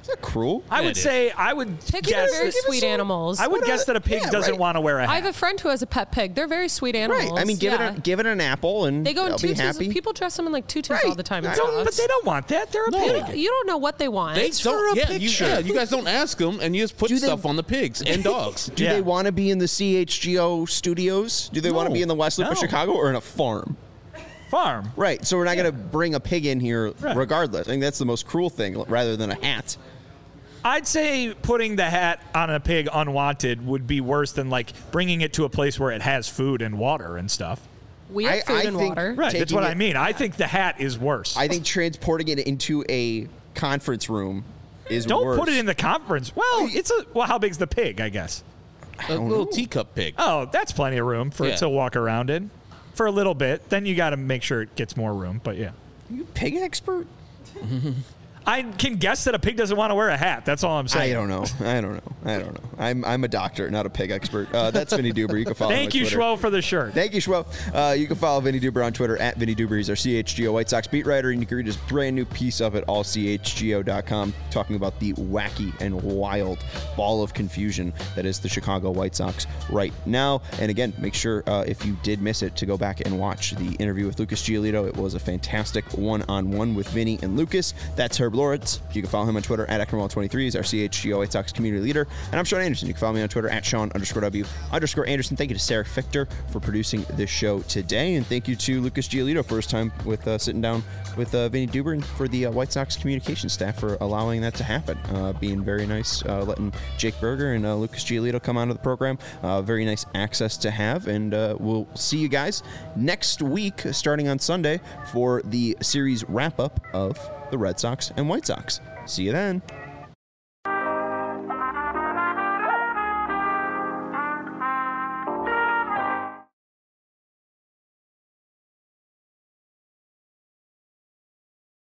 not cruel. I Yeah, would it is. say I would Pigs guess are very that- sweet animals. I would What guess a- that a pig yeah, doesn't right. want to wear a hat. I have a friend who has a pet pig. They're very sweet animals. Right. I mean, give yeah. it a, give it an apple and They go in they'll be tutus. happy. People dress them in like tutus Right. all the time. and Don't- stuff. but they don't want that. They're a No. pig. You don't know what they want. They for don't. a Yeah, you, picture. yeah, you guys don't ask them, and you just put Do they- stuff on the pigs and dogs. Do Yeah. they want to be in the C H G O studios? Do they want to No. be in the West Loop of No. Chicago or in a farm? Farm. Right. So we're not going to bring a pig in here Right. regardless. I think that's the most cruel thing rather than a hat. I'd say putting the hat on a pig unwanted would be worse than like bringing it to a place where it has food and water and stuff. we have I- food I and think- water. Right. That's Taking what I it- mean. I think the hat is worse. I think transporting it into a conference room is Don't worse. put it in the conference. Well, it's a well. How big's the pig? I guess. A little teacup pig. Oh, that's plenty of room for Yeah. it to walk around in for a little bit. Then you got to make sure it gets more room. But yeah, You pig expert? I can guess that a pig doesn't want to wear a hat. That's all I'm I saying. don't know. I don't know. I don't know. I'm I'm a doctor, not a pig expert. Uh, that's Vinny Duber. You can follow him Thank on you, Twitter. Schwo, for the shirt. Thank you, Schwo. Uh, you can follow Vinny Duber on Twitter at Vinny Duber. He's our C H G O White Sox beat writer, and you can read his brand new piece up at all c h g o dot com talking about the wacky and wild ball of confusion that is the Chicago White Sox right now. And again, make sure uh, if you did miss it to go back and watch the interview with Lucas Giolito. It was a fantastic one-on-one with Vinny and Lucas. That's Herb Loritz. You can follow him on Twitter at Ekman twenty-three. He's our C H G O White Sox community leader. And I'm Sean Anderson. You can follow me on Twitter at Sean underscore W underscore Anderson. Thank you to Sarah Fichter for producing this show today. And thank you to Lucas Giolito for his time with uh, sitting down with uh, Vinny Duber and for the uh, White Sox communication staff for allowing that to happen. Uh, being very nice, uh, letting Jake Berger and uh, Lucas Giolito come onto the program. Uh, very nice access to have. And uh, we'll see you guys next week, starting on Sunday, for the series wrap up of the Red Sox and White Sox. See you then.